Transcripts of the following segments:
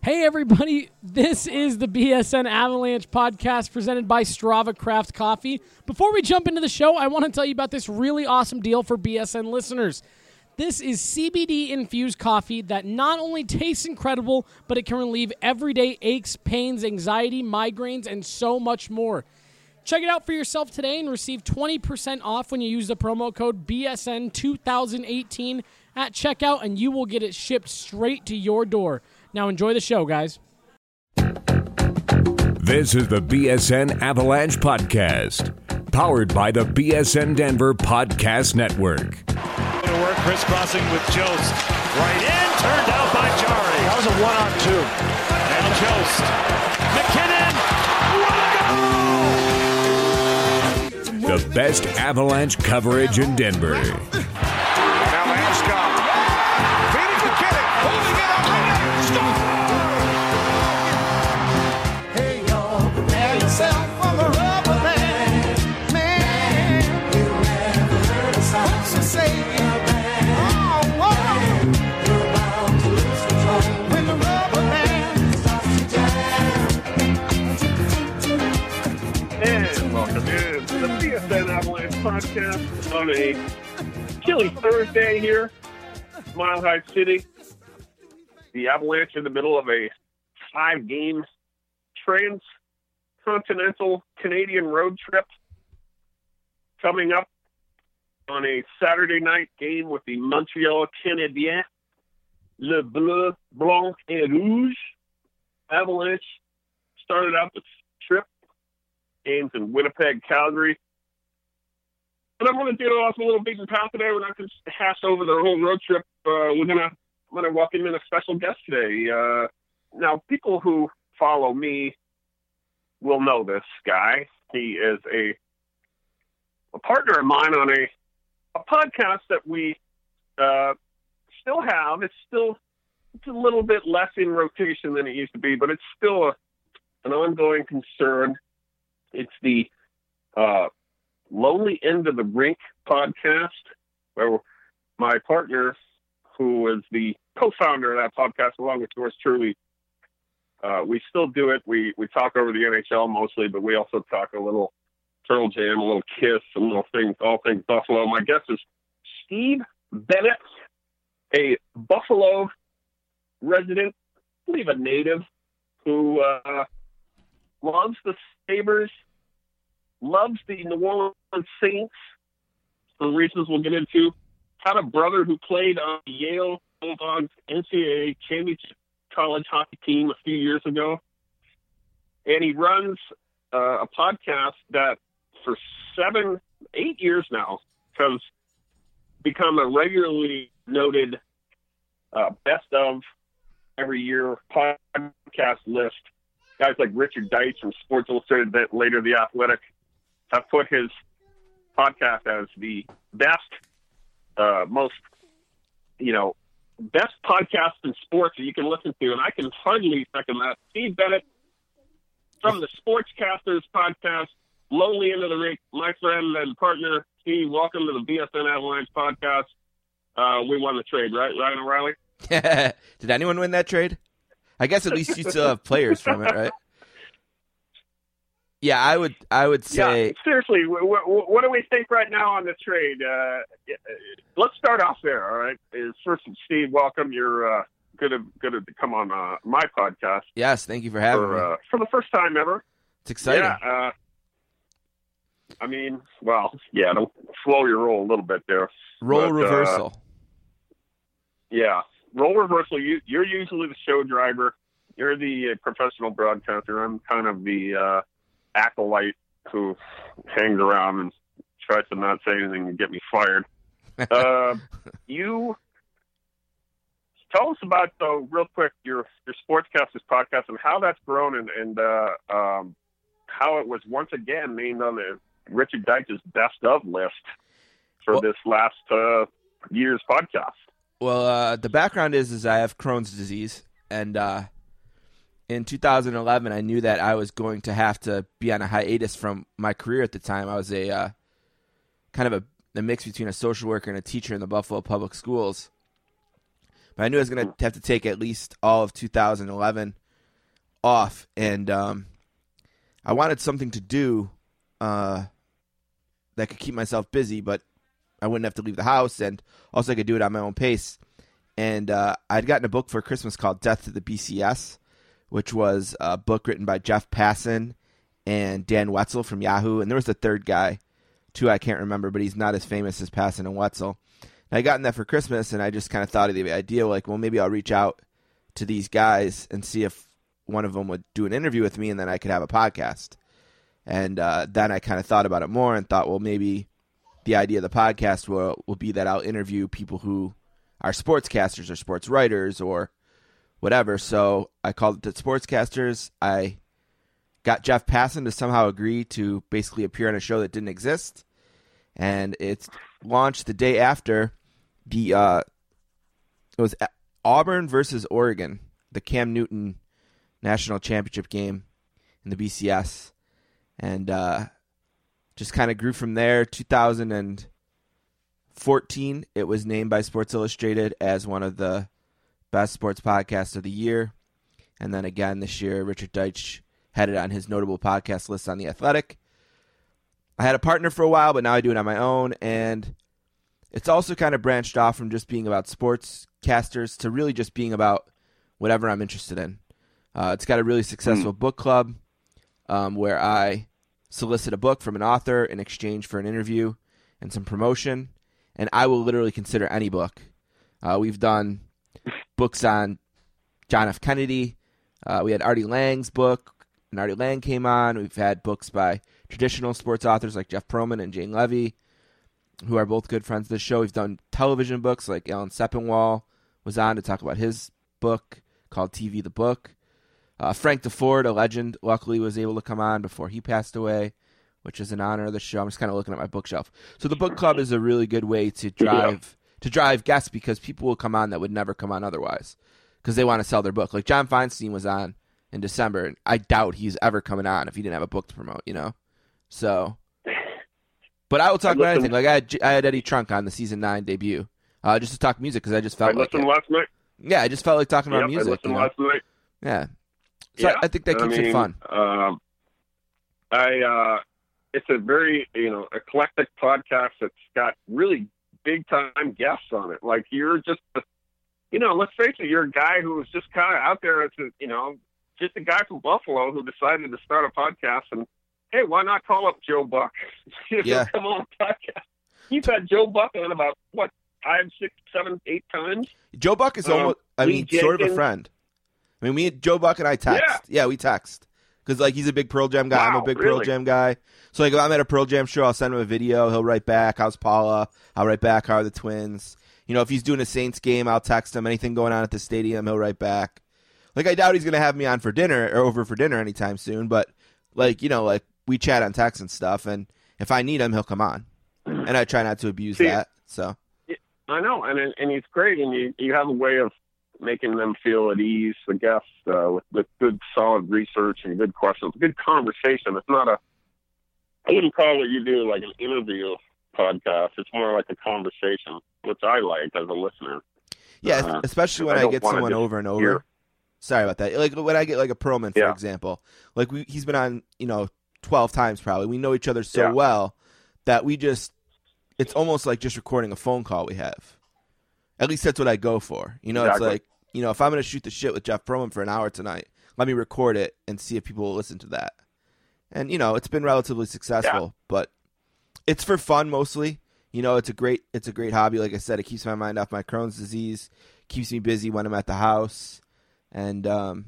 Hey everybody, this is the BSN Avalanche podcast presented by Strava Craft Coffee. Before we jump into the show, I want to tell you about this really awesome deal for BSN listeners. This is CBD-infused coffee that not only tastes incredible, but it can relieve everyday aches, pains, anxiety, migraines, and so much more. Check it out for yourself today and receive 20% off when you use the promo code BSN2018 at checkout, and you will get it shipped straight to your door. Now enjoy the show, guys. This is the BSN Avalanche Podcast, powered by the BSN Denver Podcast Network. To work, crisscrossing with Jost. Right in, turned out by Jari. That was a one-on-two. And Jost. McKinnon. What a goal! The best Avalanche coverage in Denver. Now Landeskog. Feeding McKinnon. Holding it up. Hey, y'all, prepare yourself for the rubber band. Man, you never heard a sound so say it. Oh, whoa. You're about to lose control when the rubber band starts to jam. And welcome in to the BSN Avalanche podcast on a chilly Thursday here, Mile High City. The Avalanche in the middle of a 5-game transcontinental Canadian road trip coming up on a Saturday night game with the Montreal Canadiens, Le Bleu, Blanc et Rouge. Avalanche started out this trip, games in Winnipeg, Calgary. But I'm going to do it off a little beaten path today. We're not going to hash over the whole road trip. I'm going to welcome in a special guest today. Now, people who follow me will know this guy. He is a partner of mine on a podcast that we still have. It's a little bit less in rotation than it used to be, but it's still an ongoing concern. It's the Lonely End of the Rink podcast, where my partner, who is the co-founder of that podcast, along with yours truly, we still do it. We talk over the NHL mostly, but we also talk a little Pearl Jam, a little Kiss, some little things, all things Buffalo. My guest is Steve Bennett, a Buffalo resident, I believe a native, who loves the Sabres, loves the New Orleans Saints, for reasons we'll get into. Had a brother who played on the Yale Bulldogs NCAA championship college hockey team a few years ago. And he runs a podcast that for 7-8 years now has become a regularly noted best of every year podcast list. Guys like Richard Deitsch from Sports Illustrated, later The Athletic, have put his podcast as the best, most, best podcast in sports that you can listen to, and I can hardly second that. Steve Bennett from the Sportscasters podcast, Lonely End of the Rink, my friend and partner. Steve, welcome to the BSN Avalanche podcast. We won the trade, right, Ryan O'Reilly? Did anyone win that trade? I guess at least you still have players from it, right? Yeah, I would say. Yeah, seriously, what do we think right now on the trade? Let's start off there. All right. First, Steve, welcome. You're good to come on my podcast. Yes, thank you for having me for the first time ever. It's exciting. Yeah. Don't slow your roll a little bit there. Roll reversal. Role reversal. You're usually the show driver. You're the professional broadcaster. I'm kind of the acolyte who hangs around and tries to not say anything and get me fired. You tell us about, though, real quick, your Sportscasters podcast and how that's grown and how it was once again named on the Richard Deitsch's best of list for this last year's podcast. Well, the background is I have Crohn's disease, and in 2011, I knew that I was going to have to be on a hiatus from my career at the time. I was a kind of a mix between a social worker and a teacher in the Buffalo Public Schools. But I knew I was going to have to take at least all of 2011 off, and I wanted something to do that could keep myself busy, but I wouldn't have to leave the house, and also I could do it at my own pace. And I'd gotten a book for Christmas called Death to the BCS, which was a book written by Jeff Passan and Dan Wetzel from Yahoo. And there was a third guy, too, I can't remember, but he's not as famous as Passan and Wetzel. And I gotten that for Christmas, and I just kind of thought of the idea, like, well, maybe I'll reach out to these guys and see if one of them would do an interview with me, and then I could have a podcast. And then I kind of thought about it more and thought, well, maybe the idea of the podcast will be that I'll interview people who are sportscasters or sports writers or whatever. So I called it the Sportscasters. I got Jeff Passan to somehow agree to basically appear on a show that didn't exist. And it's launched the day after it was Auburn versus Oregon, the Cam Newton National Championship game in the BCS. And just kind of grew from there. 2014, it was named by Sports Illustrated as one of the best sports podcasts of the year. And then again this year, Richard Deitsch had it on his notable podcast list on The Athletic. I had a partner for a while, but now I do it on my own. And it's also kind of branched off from just being about sportscasters to really just being about whatever I'm interested in. It's got a really successful book club where I solicit a book from an author in exchange for an interview and some promotion, and I will literally consider any book. We've done books on John F. Kennedy. We had Artie Lange's book, and Artie Lange came on. We've had books by traditional sports authors like Jeff Pearlman and Jane Levy, who are both good friends of the show. We've done television books like Alan Sepinwall was on to talk about his book called TV the Book. Frank DeFord, a legend, luckily was able to come on before he passed away, which is an honor of the show. I'm just kind of looking at my bookshelf. So the book club is a really good way to drive guests because people will come on that would never come on otherwise because they want to sell their book. Like John Feinstein was on in December, and I doubt he's ever coming on if he didn't have a book to promote, you know? So, but I will talk about anything. Like I had Eddie Trunk on the season 9 debut just to talk music because I just felt like it. Last night. Yeah, I just felt like talking about music. I listened last night. Yeah. So I think that keeps it fun. It's a very, eclectic podcast that's got really big time guests on it. Like you're just, let's face it, you're a guy who was just kind of out there as just a guy from Buffalo who decided to start a podcast and, hey, why not call up Joe Buck? Come on podcast. You've had Joe Buck on about, 5, 6, 7, 8 times? Joe Buck is almost, sort of a friend. I mean, Joe Buck and I text. Yeah, we text. Because, he's a big Pearl Jam guy. I'm a big Pearl Jam guy. So, if I'm at a Pearl Jam show, I'll send him a video. He'll write back, how's Paula? I'll write back, how are the Twins? If he's doing a Saints game, I'll text him. Anything going on at the stadium, he'll write back. I doubt he's going to have me on for dinner or over for dinner anytime soon. But, we chat on text and stuff. And if I need him, he'll come on. And I try not to abuse that. So I know. And he's great. And you have a way of making them feel at ease, the guests, with good, solid research and good questions, good conversation. It's not I wouldn't call what you do like an interview podcast. It's more like a conversation, which I like as a listener. Yeah, especially when I get someone over and over. Sorry about that. Like when I get like a Pearlman, for example, he's been on, 12 times probably. We know each other so well that it's almost like just recording a phone call we have. At least that's what I go for. Exactly. It's like, if I'm going to shoot the shit with Jeff Pearlman for an hour tonight, let me record it and see if people will listen to that. And, it's been relatively successful, but it's for fun mostly. It's a great hobby. Like I said, it keeps my mind off my Crohn's disease, keeps me busy when I'm at the house. And,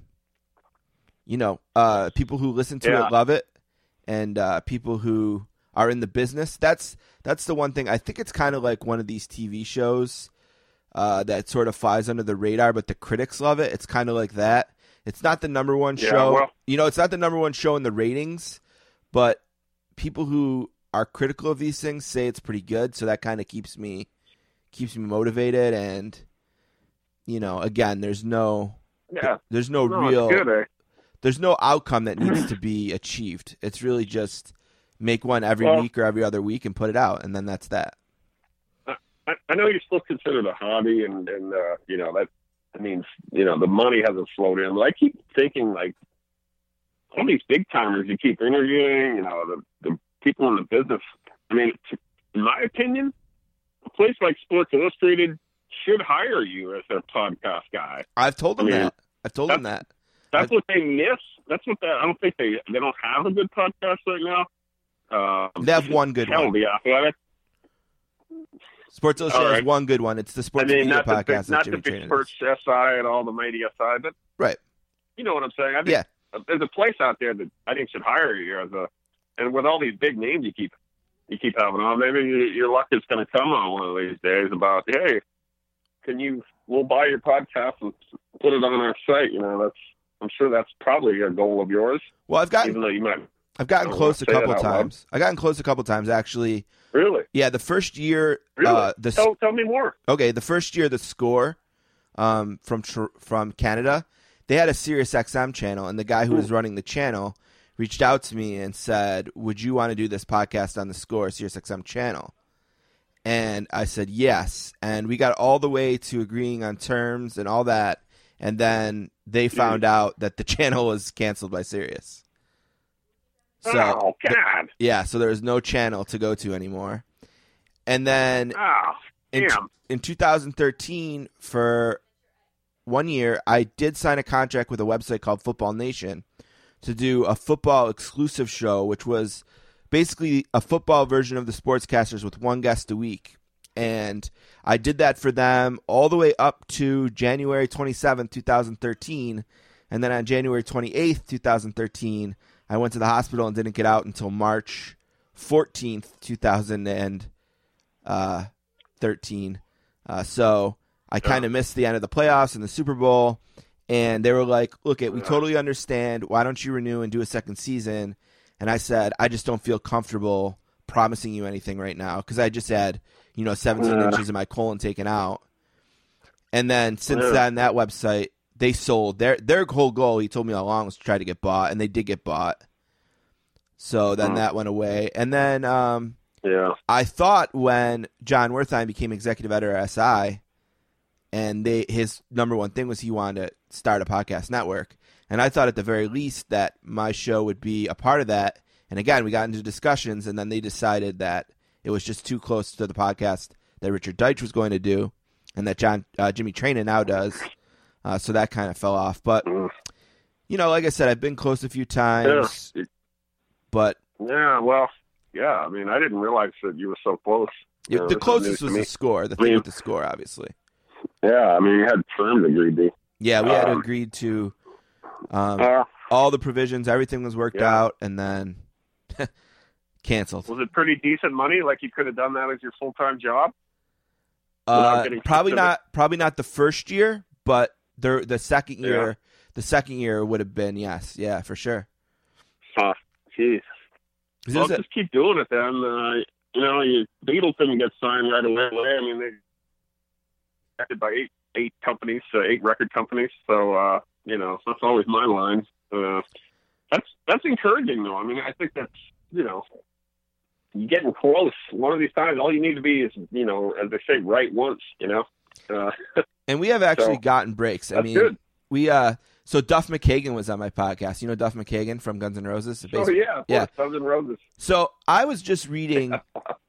people who listen to it love it. And people who are in the business, that's the one thing. I think it's kind of like one of these TV shows that sort of flies under the radar, but the critics love it. It's kind of like that. It's not the number one show. Well, it's not the number one show in the ratings, but people who are critical of these things say it's pretty good. So that kind of keeps me motivated. And, again, there's no outcome that needs to be achieved. It's really just make one every week or every other week and put it out. And then that's that. I know you still consider it a hobby, and you know that means the money hasn't flowed in. But I keep thinking like all these big timers you keep interviewing, the people in the business. I mean, in my opinion, a place like Sports Illustrated should hire you as their podcast guy. I've told them that. I've told them that. That's what they miss. That's what I don't think they don't have a good podcast right now. They have one good one. The Athletic. Sports Illustrated has one good one. It's the Sports Media Podcast. Not the Big Sports SI and all the media side, but right. You know what I'm saying? I think there's a place out there that I think should hire you and with all these big names you keep having on, maybe your luck is going to come on one of these days about, hey, we'll buy your podcast and put it on our site. I'm sure that's probably a goal of yours. Well, I've gotten close a couple times. I've gotten close a couple times, actually. Really? Yeah, the first year. Really? Tell me more. Okay, the first year, The Score from Canada, they had a Sirius XM channel, and the guy who was running the channel reached out to me and said, would you want to do this podcast on The Score, Sirius XM channel? And I said yes, and we got all the way to agreeing on terms and all that, and then they found out that the channel was canceled by Sirius. So, oh, God. So there was no channel to go to anymore. And then in 2013, for 1 year, I did sign a contract with a website called Football Nation to do a football exclusive show, which was basically a football version of the Sportscasters with one guest a week. And I did that for them all the way up to January 27th, 2013. And then on January 28th, 2013, I went to the hospital and didn't get out until March 14th, 2013. So I kind of missed the end of the playoffs and the Super Bowl. And they were like, look, we totally understand. Why don't you renew and do a second season? And I said, I just don't feel comfortable promising you anything right now because I just had, 17 inches of my colon taken out. And then since then, that website, they sold. Their whole goal, he told me all along, was to try to get bought, and they did get bought. So then that went away. And then I thought when John Wertheim became executive editor at SI, and his number one thing was he wanted to start a podcast network. And I thought at the very least that my show would be a part of that. And again, we got into discussions, and then they decided that it was just too close to the podcast that Richard Deitch was going to do and that Jimmy Traina now does. So that kind of fell off. But, like I said, I've been close a few times. Yeah. But I mean, I didn't realize that you were so close. The closest was The Score, the thing with The Score, obviously. Yeah, I mean, you had terms agreed to. Yeah, we had agreed to all the provisions. Everything was worked out, and then canceled. Was it pretty decent money? Like you could have done that as your full-time job? Probably not the first year, but the second year, would have been yes, for sure. Jeez. Well, just keep doing it then. The Beatles didn't get signed right away. I mean, they acted by eight companies, 8 record companies. So that's always my line. That's encouraging, though. I mean, I think that's you're getting close. One of these times, all you need to be is as they say, right once. And we have actually gotten breaks. I mean, good. We so Duff McKagan was on my podcast. You know Duff McKagan from Guns N' Roses? Oh yeah, of course, Guns N' Roses. So I was just reading,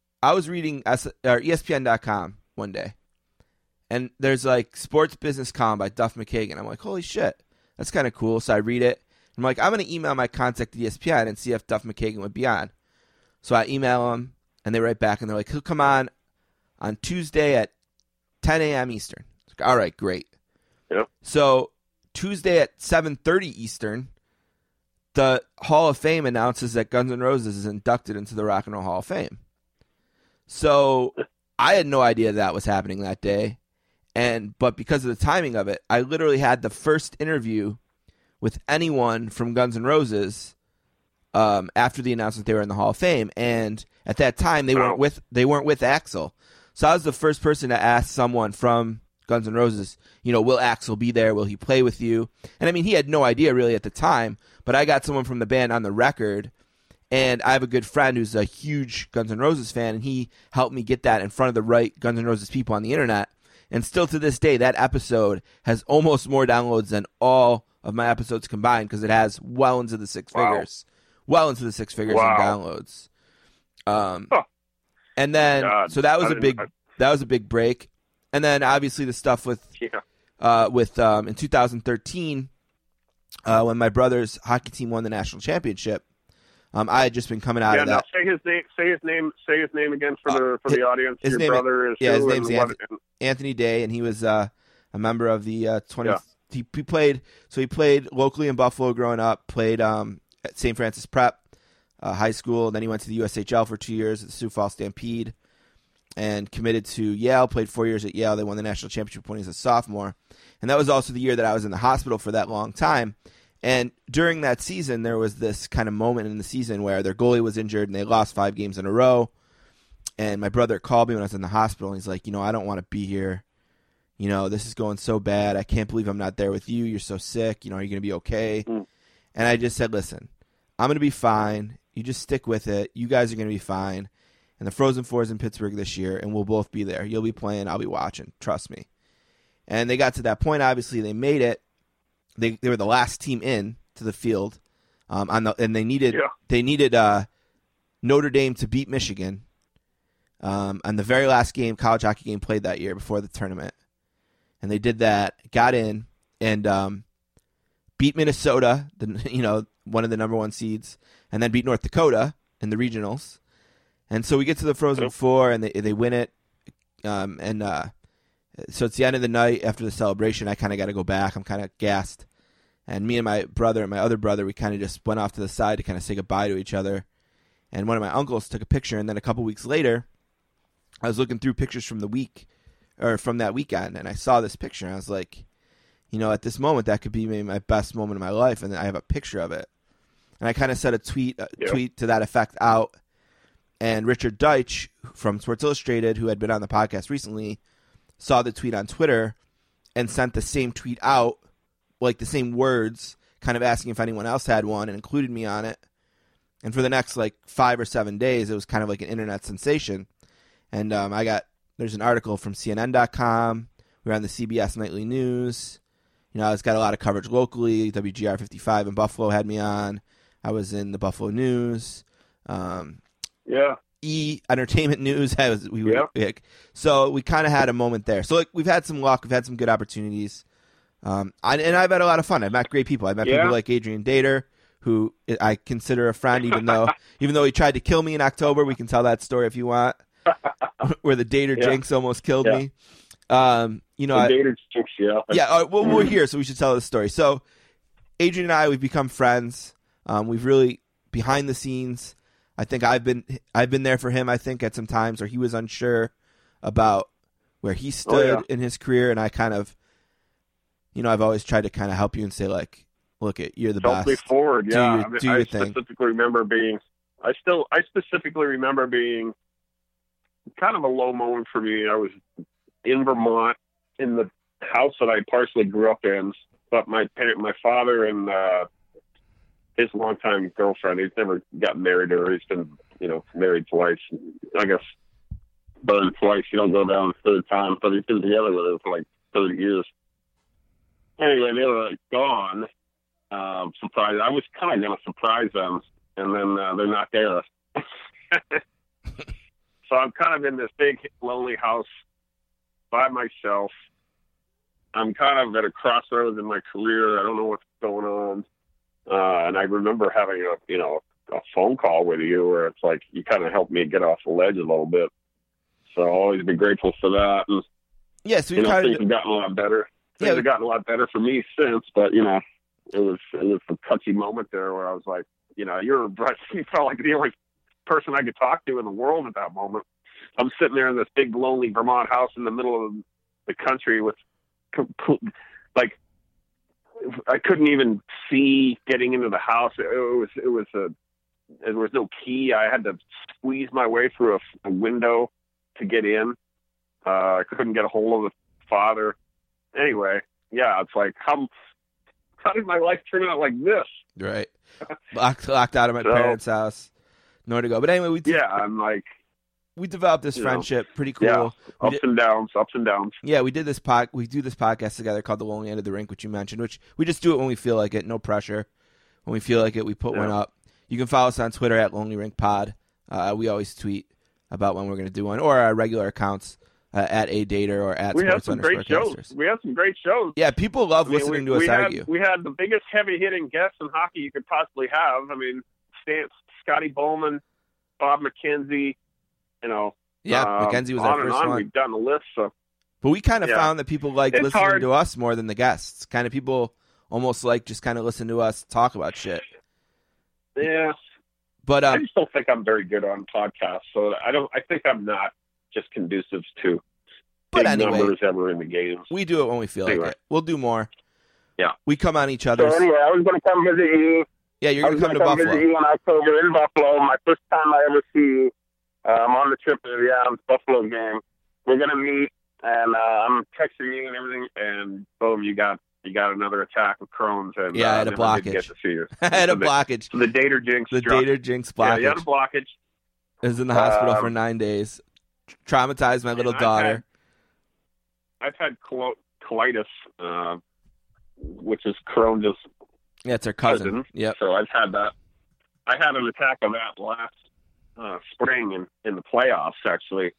ESPN.com one day, and there's like Sports Business Column by Duff McKagan. I'm like, holy shit, that's kind of cool. So I read it. I'm like, I'm going to email my contact at ESPN and see if Duff McKagan would be on. So I email them, and they write back, and they're like, he'll come on Tuesday at 10 a.m. Eastern. Like, all right, great. Yep. So Tuesday at 7:30 Eastern, the Hall of Fame announces that Guns N' Roses is inducted into the Rock and Roll Hall of Fame. So I had no idea that was happening that day, but because of the timing of it, I literally had the first interview with anyone from Guns N' Roses after the announcement they were in the Hall of Fame, and at that time they weren't with Axl. So I was the first person to ask someone from Guns N' Roses, will Axl be there? Will he play with you? And I mean, he had no idea really at the time, but I got someone from the band on the record, And I have a good friend who's a huge Guns N' Roses fan, and he helped me get that in front of the right Guns N' Roses people on the internet. And still to this day, that episode has almost more downloads than all of my episodes combined because it has well into the six figures. Well into the six figures in downloads. And then, so that was a big break. And then obviously the stuff with in 2013, when my brother's hockey team won the national championship, I had just been coming out of that. Say his name again for the audience. His name's Anthony Day, and he was a member of the 20. Yeah. He played locally in Buffalo growing up. Played at St. Francis Prep High School. Then he went to the USHL for 2 years at the Sioux Falls Stampede, and committed to Yale. Played 4 years at Yale. They won the national championship when he was a sophomore, and that was also the year that I was in the hospital for that long time. And during that season, there was this kind of moment in the season where their goalie was injured and they lost 5 games in a row. And my brother called me when I was in the hospital, and he's like, I don't want to be here. This is going so bad. I can't believe I'm not there with you. You're so sick. Are you going to be okay? And I just said, listen, I'm going to be fine. You just stick with it. You guys are going to be fine. And the Frozen Four is in Pittsburgh this year, and we'll both be there. You'll be playing. I'll be watching. Trust me. And they got to that point. Obviously, they made it. They were the last team in to the field, and they needed Notre Dame to beat Michigan on the very last college hockey game played that year before the tournament. And they did that, got in, and beat Minnesota, one of the number 1 seeds, and then beat North Dakota in the regionals. And so we get to the Frozen Four, and they win it. So it's the end of the night after the celebration. I kind of got to go back. I'm kind of gassed. And me and my brother and my other brother, we kind of just went off to the side to kind of say goodbye to each other. And one of my uncles took a picture, and then a couple weeks later, I was looking through pictures from from that weekend, and I saw this picture, and I was like, at this moment, that could be maybe my best moment of my life, and I have a picture of it. And I kind of said a tweet to that effect out, and Richard Deitsch from Sports Illustrated, who had been on the podcast recently, saw the tweet on Twitter and sent the same tweet out, like the same words, kind of asking if anyone else had one, and included me on it. And for the next 5 or 7 days, it was kind of like an internet sensation. And there's an article from CNN.com. We were on the CBS Nightly News. It's got a lot of coverage locally. WGR 55 in Buffalo had me on. I was in the Buffalo News. E! Entertainment News. So we kind of had a moment there. So we've had some luck. We've had some good opportunities. And I've had a lot of fun. I've met great people. I've met people like Adrian Dater, who I consider a friend, even though he tried to kill me in October. We can tell that story if you want, where the Dater jinx almost killed me. Dater jinx, we're here, so we should tell this story. So Adrian and I, we've become friends. We've really, behind the scenes, I think I've been there for him, I think, at some times where he was unsure about where he stood in his career, and I kind of, I've always tried to kind of help you and say, look, you're the best. Help me forward, yeah. Do your thing. I specifically remember being kind of a low moment for me. I was in Vermont in the house that I partially grew up in, but my father and his longtime girlfriend, he's never got married to her. He's been, married twice. I guess burned twice. You don't go down the third time, but he's been together with her for 30 years. Anyway, they were gone. Surprised. I was kind of going to surprise them, and then they're not there. So I'm kind of in this big, lonely house by myself. I'm kind of at a crossroads in my career. I don't know what's going on. And I remember having a phone call with you where it's like you kind of helped me get off the ledge a little bit. So I'll always be grateful for that. And, yes, things have gotten a lot better. Things have gotten a lot better for me since, but it was a touchy moment there where I was like, you felt like the only person I could talk to in the world at that moment. I'm sitting there in this big lonely Vermont house in the middle of the country with I couldn't even see getting into the house. There was no key. I had to squeeze my way through a window to get in. I couldn't get a hold of the father. Anyway, it's like, how did my life turn out like this? Right. Locked out of my parents' house. nowhere to go. But anyway, I'm like, we developed this friendship. Pretty cool. Yeah, ups and downs. Yeah, we do this podcast together called The Lonely End of the Rink, which you mentioned, which we just do it when we feel like it, no pressure. When we feel like it, we put one up. You can follow us on Twitter at Lonely Rink Pod. We always tweet about when we're going to do one, or our regular accounts at ADater or at Sports_Casters. We have some great shows. Yeah, people love listening to us argue. We had the biggest heavy-hitting guests in hockey you could possibly have. I mean, Scotty Bowman, Bob McKenzie, McKenzie was our first one. We've done a list. So. But we kind of found that people like listening to us more than the guests. Kind of people almost like just kind of listen to us talk about shit. Yeah. But I just don't think I'm very good on podcasts, so I think I'm not just conducive to big numbers ever in the games. We do it when we feel like it. We'll do more. Yeah. We come on each other's. So anyway, I was going to come visit you. Yeah, you're going to come to Buffalo. Visit you in October in Buffalo. My first time I ever see you. I'm on the trip to the Buffalo game. We're going to meet, and I'm texting you and everything, and boom, you got another attack of Crohn's. And, I had a blockage. Didn't get to see you. I had a blockage. The Dater Jinx. The Dater Jinx blockage. Yeah, you had a blockage. I was in the hospital for 9 days. Traumatized my little daughter. I've had colitis, which is Crohn's. Yeah, it's her cousin. Yep. So I've had that. I had an attack of that last spring in the playoffs, actually.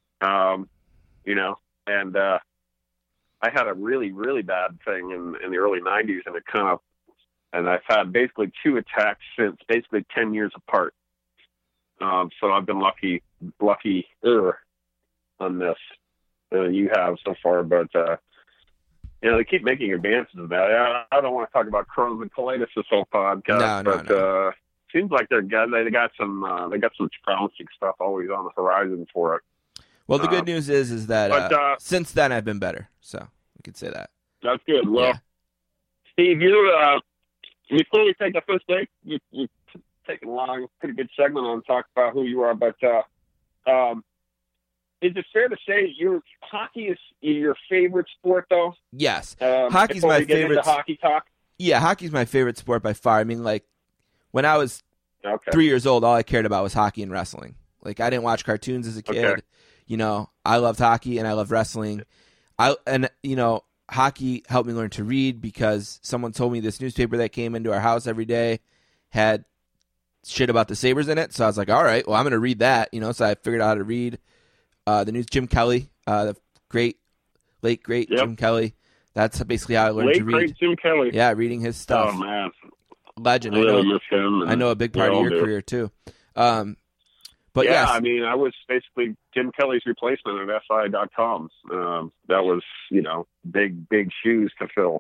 And I had a really, really bad thing in the early 90s, and I've had basically 2 attacks since, basically 10 years apart. So I've been lucky on this. You have so far, but they keep making advances in that. I don't want to talk about Crohn's and colitis this whole podcast, but seems like they got some promising stuff always on the horizon for it. Well, the good news is that since then I've been better, so we could say that. That's good. Well, Steve, before we take the first break, you taking a long, pretty good segment on talk about who you are, but is it fair to say hockey is your favorite sport, though? Yes, hockey's my favorite. Hockey talk. Yeah, hockey's my favorite sport by far. I mean, like when I was 3 years old, all I cared about was hockey and wrestling. Like I didn't watch cartoons as a kid. Okay. I loved hockey and I loved wrestling. Hockey helped me learn to read because someone told me this newspaper that came into our house every day had shit about the Sabres in it. So I was like, all right, well, I'm going to read that, So I figured out how to read the news. Jim Kelly, the late great Jim Kelly. That's basically how I learned to read. Great Jim Kelly. Yeah, reading his stuff. Oh, man. Legend. I really miss him. I know a big part of your career, too. But yeah, yes. I mean, I was basically Jim Kelly's replacement at SI.com. That was, big shoes to fill.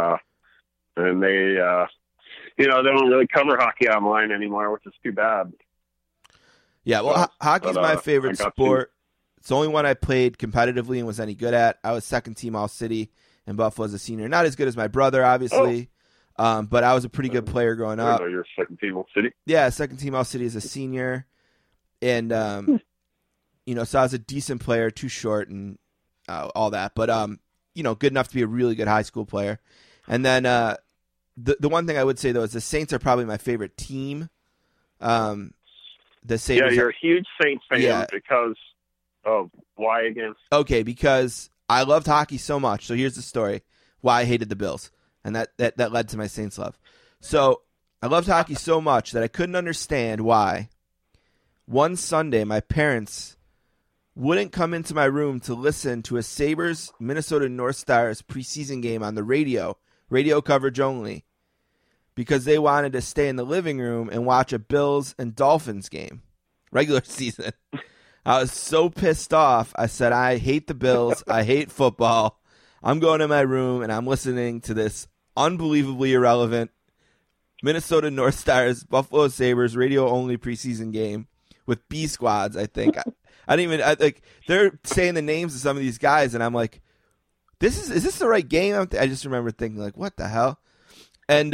And they, they don't really cover hockey online anymore, which is too bad. Yeah, well, hockey's my favorite sport. It's the only one I played competitively and was any good at. I was second team All-City in Buffalo as a senior. Not as good as my brother, obviously, but I was a pretty good player growing up. You're second team All-City? Yeah, second team All-City as a senior. And, so I was a decent player, too short and all that. But, good enough to be a really good high school player. And then the one thing I would say, though, is the Saints are probably my favorite team. The Sabres. Yeah, you're a huge Saints fan because of why again? Okay, because I loved hockey so much. So here's the story why I hated the Bills. And that led to my Saints love. So I loved hockey so much that I couldn't understand why one Sunday my parents wouldn't come into my room to listen to a Sabres Minnesota North Stars preseason game on the radio coverage only, because they wanted to stay in the living room and watch a Bills and Dolphins game, regular season. I was so pissed off. I said, I hate the Bills. I hate football. I'm going to my room and I'm listening to this unbelievably irrelevant Minnesota North Stars, Buffalo Sabres radio only preseason game with B squads, I think. They're saying the names of some of these guys, and I'm like, is this the right game? I just remember thinking, like, what the hell? And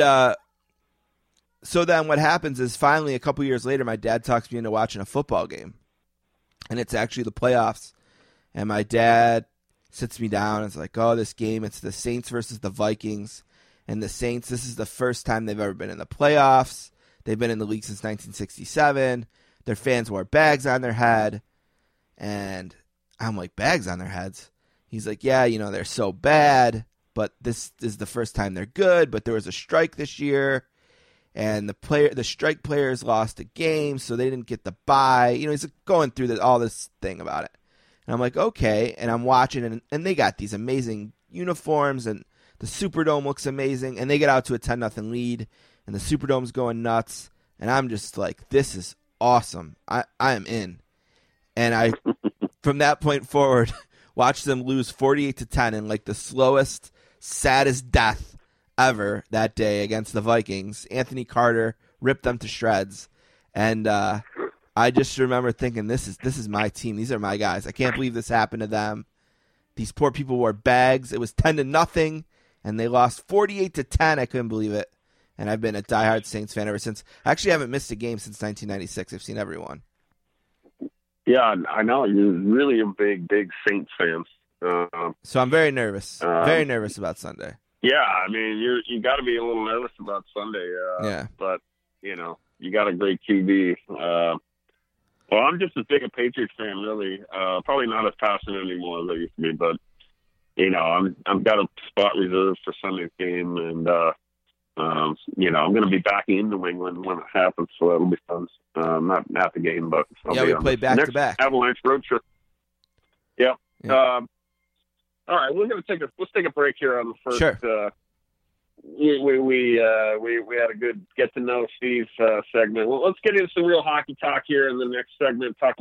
so then what happens is finally a couple years later, my dad talks me into watching a football game, and it's actually the playoffs. And my dad sits me down and is like, oh, this game, it's the Saints versus the Vikings. And the Saints, this is the first time they've ever been in the playoffs. They've been in the league since 1967. their fans wore bags on their head. And I'm like, bags on their heads? He's like, yeah, they're so bad, but this is the first time they're good, but there was a strike this year, and the strike players lost a game, so they didn't get the bye. He's going through all this thing about it. And I'm like, okay, and I'm watching, and they got these amazing uniforms, and the Superdome looks amazing, and they get out to a 10-0 lead, and the Superdome's going nuts, and I'm just like, this is awesome. I am in. And I, from that point forward, watched them lose 48-10 in like the slowest, saddest death ever that day against the Vikings. Anthony Carter ripped them to shreds, and I just remember thinking, this is my team. These are my guys. I can't believe this happened to them. These poor people wore bags. It was 10-0, and they lost 48-10. I couldn't believe it. And I've been a diehard Saints fan ever since. I actually haven't missed a game since 1996. I've seen everyone. Yeah, I know. You're really a big Saints fan. So I'm very nervous. Very nervous about Sunday. Yeah, I mean, you got to be a little nervous about Sunday. Yeah. But, you got a great QB. Well, I'm just as big a Patriots fan, really. Probably not as passionate anymore as I used to be, but, I've got a spot reserved for Sunday's game, and, I'm going to be back in New England when it happens, so it'll be fun. Not at the game, but we play back-to-back. Avalanche road trip. Yeah. All right, let's take a break here on the first. Sure. We had a good get to know Steve segment. Well, let's get into some real hockey talk here in the next segment. We'll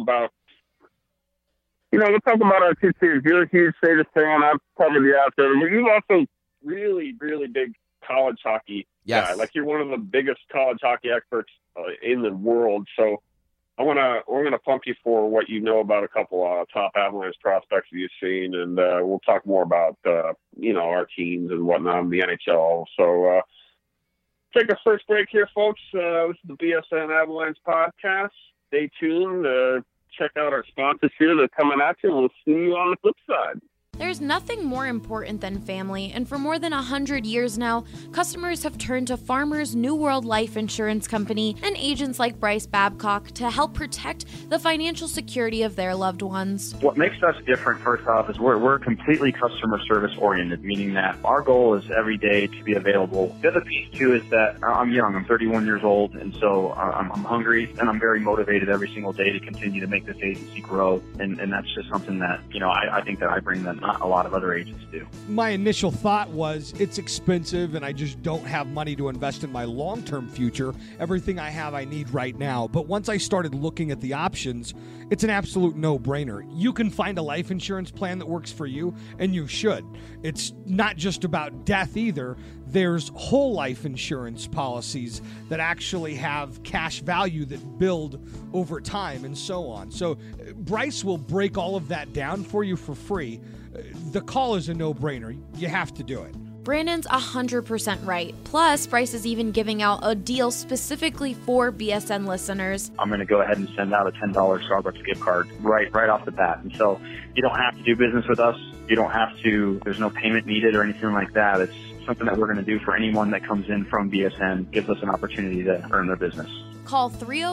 talk about our two teams. You're a huge Sabres fan. I'm probably the outsider. But you're also really, really big college hockey guy. Like, you're one of the biggest college hockey experts in the world. So we're gonna pump you for what you know about a couple top Avalanche prospects that you've seen, and we'll talk more about our teams and whatnot in the NHL. So take a first break here, folks. This is the BSN Avalanche podcast. Stay tuned. Check out our sponsors here. They're coming at you. We'll see you on the flip side. There's nothing more important than family, and for more than 100 years now, customers have turned to Farmers New World Life Insurance Company and agents like Bryce Babcock to help protect the financial security of their loved ones. What makes us different, first off, is we're completely customer service oriented, meaning that our goal is every day to be available. The other piece, too, is that I'm young. I'm 31 years old, and so I'm hungry, and I'm very motivated every single day to continue to make this agency grow, and that's just something that, I think that I bring that not a lot of other agents do. My initial thought was it's expensive and I just don't have money to invest in my long-term future. Everything I have I need right now. But once I started looking at the options, it's an absolute no-brainer. You can find a life insurance plan that works for you, and you should. It's not just about death either. There's whole life insurance policies that actually have cash value that build over time and so on. So Bryce will break all of that down for you for free. The call is a no-brainer. You have to do it. Brandon's 100% right. Plus, Bryce is even giving out a deal specifically for BSN listeners. I'm going to go ahead and send out a $10 Starbucks gift card right off the bat. And so you don't have to do business with us. You don't have to, there's no payment needed or anything like that. It's something that we're going to do for anyone that comes in from BSN, gives us an opportunity to earn their business. Call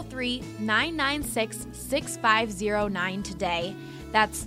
303-996-6509 today. That's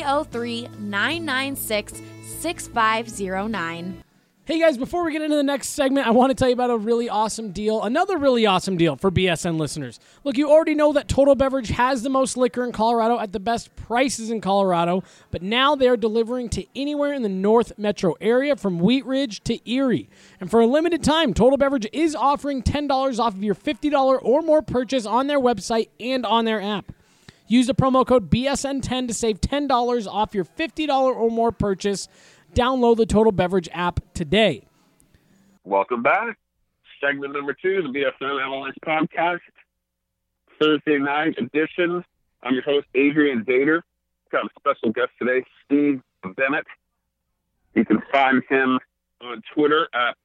303-996-6509. Hey guys, before we get into the next segment, I want to tell you about a really awesome deal, another really awesome deal for BSN listeners. Look, you already know that Total Beverage has the most liquor in Colorado at the best prices in Colorado, but now they're delivering to anywhere in the North Metro area from Wheat Ridge to Erie. And for a limited time, Total Beverage is offering $10 off of your $50 or more purchase on their website and on their app. Use the promo code BSN10 to save $10 off your $50 or more purchase. Download the Total Beverage app today. Welcome back. Segment number 2, the BSN Avalanche podcast, Thursday night edition. I'm your host, Adrian Dater. Got a special guest today, Steve Bennett. You can find him on Twitter at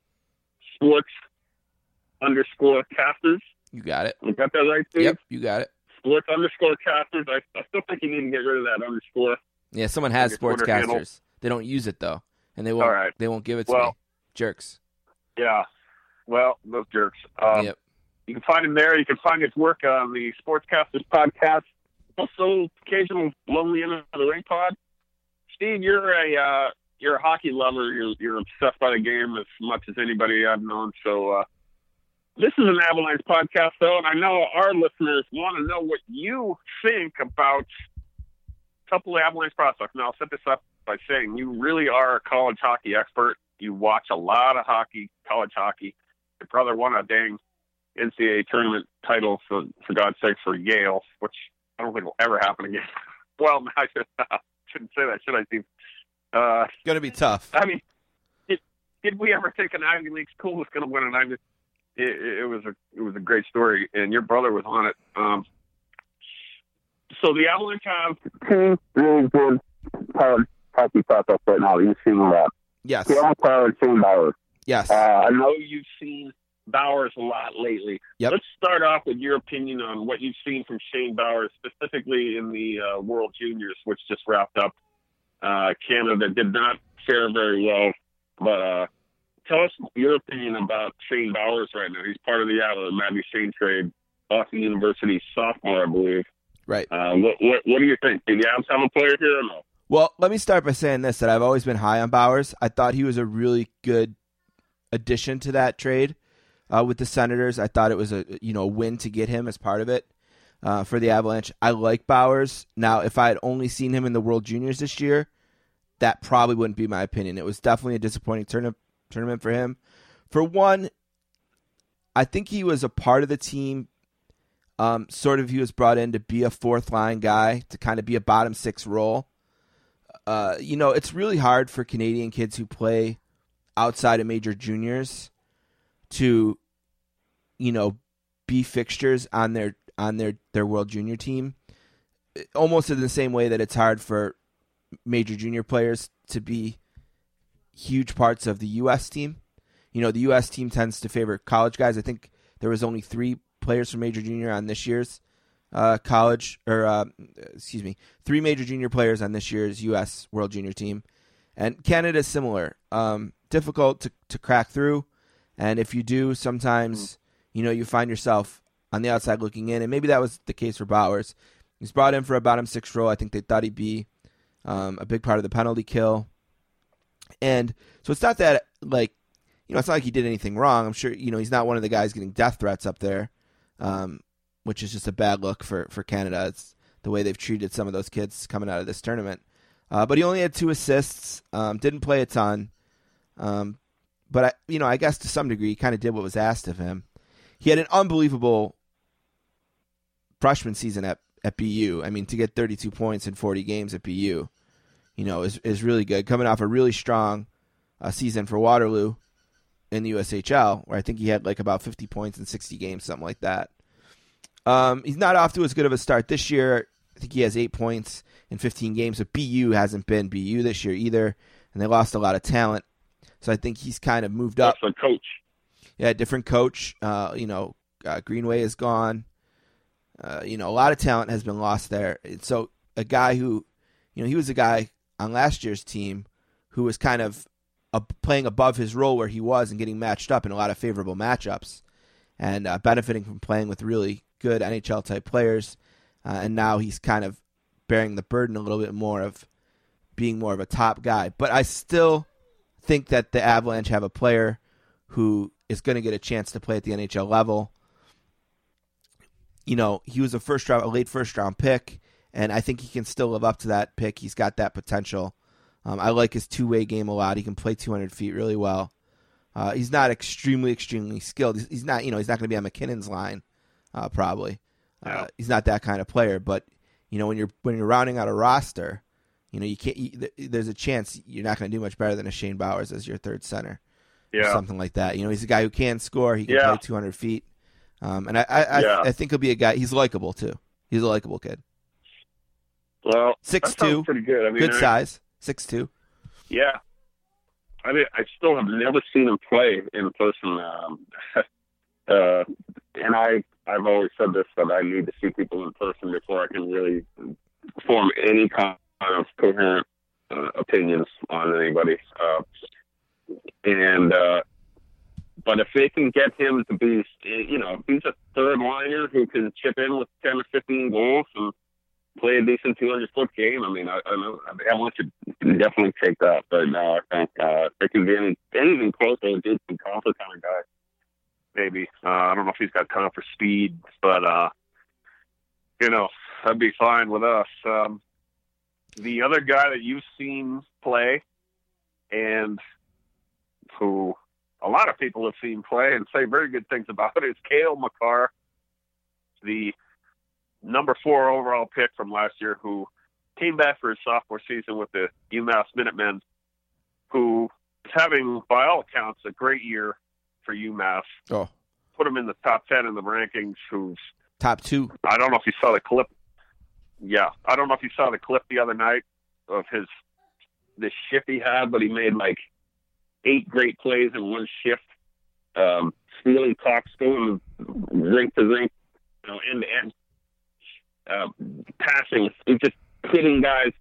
sports_casters. You got it. You got that right, Steve? Yep, you got it. Sports_casters. I still think you need to get rid of that underscore. Yeah, someone has sportscasters. They don't use it though, and they won't. All right. They won't give it to me. Jerks. Yeah. Well, those jerks. Yep. You can find him there. You can find his work on the Sportscasters podcast. Also, occasional Lonely End of the Ring pod. Steve, you're a hockey lover. You're obsessed by the game as much as anybody I've known. So this is an Avalanche podcast, though, and I know our listeners want to know what you think about a couple of Avalanche prospects. Now, I'll set this up by saying you really are a college hockey expert. You watch a lot of hockey, college hockey. Your brother won a dang NCAA tournament title, for God's sake, for Yale, which I don't think will ever happen again. Well, I shouldn't say that, should I, Steve? It's going to be tough. I mean, did we ever think an Ivy League school was going to win an Ivy League? It was a great story, and your brother was on it. So the Avalanche have two really good college hockey prospects right now. You've seen that. Yes. Cale Makar and Shane Bowers. Yes. I know you've seen Bowers a lot lately. Yep. Let's start off with your opinion on what you've seen from Shane Bowers, specifically in the World Juniors, which just wrapped up. Canada did not fare very well, but tell us your opinion about Shane Bowers right now. He's part of the Matty Shane trade, Boston University sophomore, I believe. Right. What do you think? Do the Avs have a player here or no? Well, let me start by saying this, that I've always been high on Bowers. I thought he was a really good addition to that trade with the Senators. I thought it was a win to get him as part of it for the Avalanche. I like Bowers. Now, if I had only seen him in the World Juniors this year, that probably wouldn't be my opinion. It was definitely a disappointing tournament for him. For one, I think he was a part of the team. He was brought in to be a fourth-line guy, to kind of be a bottom six role. It's really hard for Canadian kids who play outside of major juniors to, be fixtures on their World Junior team. Almost in the same way that it's hard for major junior players to be huge parts of the U.S. team. The U.S. team tends to favor college guys. I think there was only 3 players from major junior on this year's three major junior players on this year's U.S. World Junior team. And Canada is similar. Difficult to crack through. And if you do, sometimes, you find yourself on the outside looking in. And maybe that was the case for Bowers. He's brought in for a bottom six role. I think they thought he'd be a big part of the penalty kill. And so it's not that, it's not like he did anything wrong. I'm sure, he's not one of the guys getting death threats up there. Which is just a bad look for Canada. It's the way they've treated some of those kids coming out of this tournament. But he only had 2 assists, didn't play a ton. But I guess to some degree, he kind of did what was asked of him. He had an unbelievable freshman season at BU. I mean, to get 32 points in 40 games at BU, is really good. Coming off a really strong season for Waterloo in the USHL, where I think he had about 50 points in 60 games, something like that. He's not off to as good of a start this year. I think he has 8 points in 15 games, but BU hasn't been BU this year either, and they lost a lot of talent. So I think he's kind of moved up. Different coach. Yeah, different coach. Greenway is gone. A lot of talent has been lost there. So a guy who, he was a guy on last year's team who was kind of playing above his role where he was and getting matched up in a lot of favorable matchups and benefiting from playing with really good NHL-type players. And now he's kind of bearing the burden a little bit more of being more of a top guy. But I still think that the Avalanche have a player who is going to get a chance to play at the NHL level. He was a late first-round pick, and I think he can still live up to that pick. He's got that potential. I like his two-way game a lot. He can play 200 feet really well. He's not extremely, extremely skilled. He's not, he's not going to be on McKinnon's line, probably. No. He's not that kind of player. But when you're rounding out a roster, you can't. There's a chance you're not going to do much better than a Shane Bowers as your third center, or something like that. He's a guy who can score. He can play 200 feet, and I think he'll be a guy. He's likable too. He's a likable kid. Well, 6'2", pretty good. I mean, good size. 6'2". Yeah. I still have never seen him play in person. And I've always said this, that I need to see people in person before I can really form any kind of coherent opinions on anybody. But if they can get him to be, he's a winger who can chip in with 10 or 15 goals and play a decent 200-foot game. I mean, I know Avalanche should definitely take that, but no, I think they can be anything close to a Jason Compher kind of guy. Maybe. I don't know if he's got time for speed, but, that'd be fine with us. The other guy that you've seen play and who a lot of people have seen play and say very good things about is Cale Makar, the number 4 overall pick from last year, who came back for his sophomore season with the UMass Minutemen, who is having, by all accounts, a great year for UMass. Oh. Put him in the top 10 in the rankings, who's top 2. I don't know if you saw the clip. Yeah. I don't know if you saw the clip the other night of this shift he had, but he made like 8 great plays in one shift. Stealing pucks, going rink to rink, end to end. Passing, just hitting guys.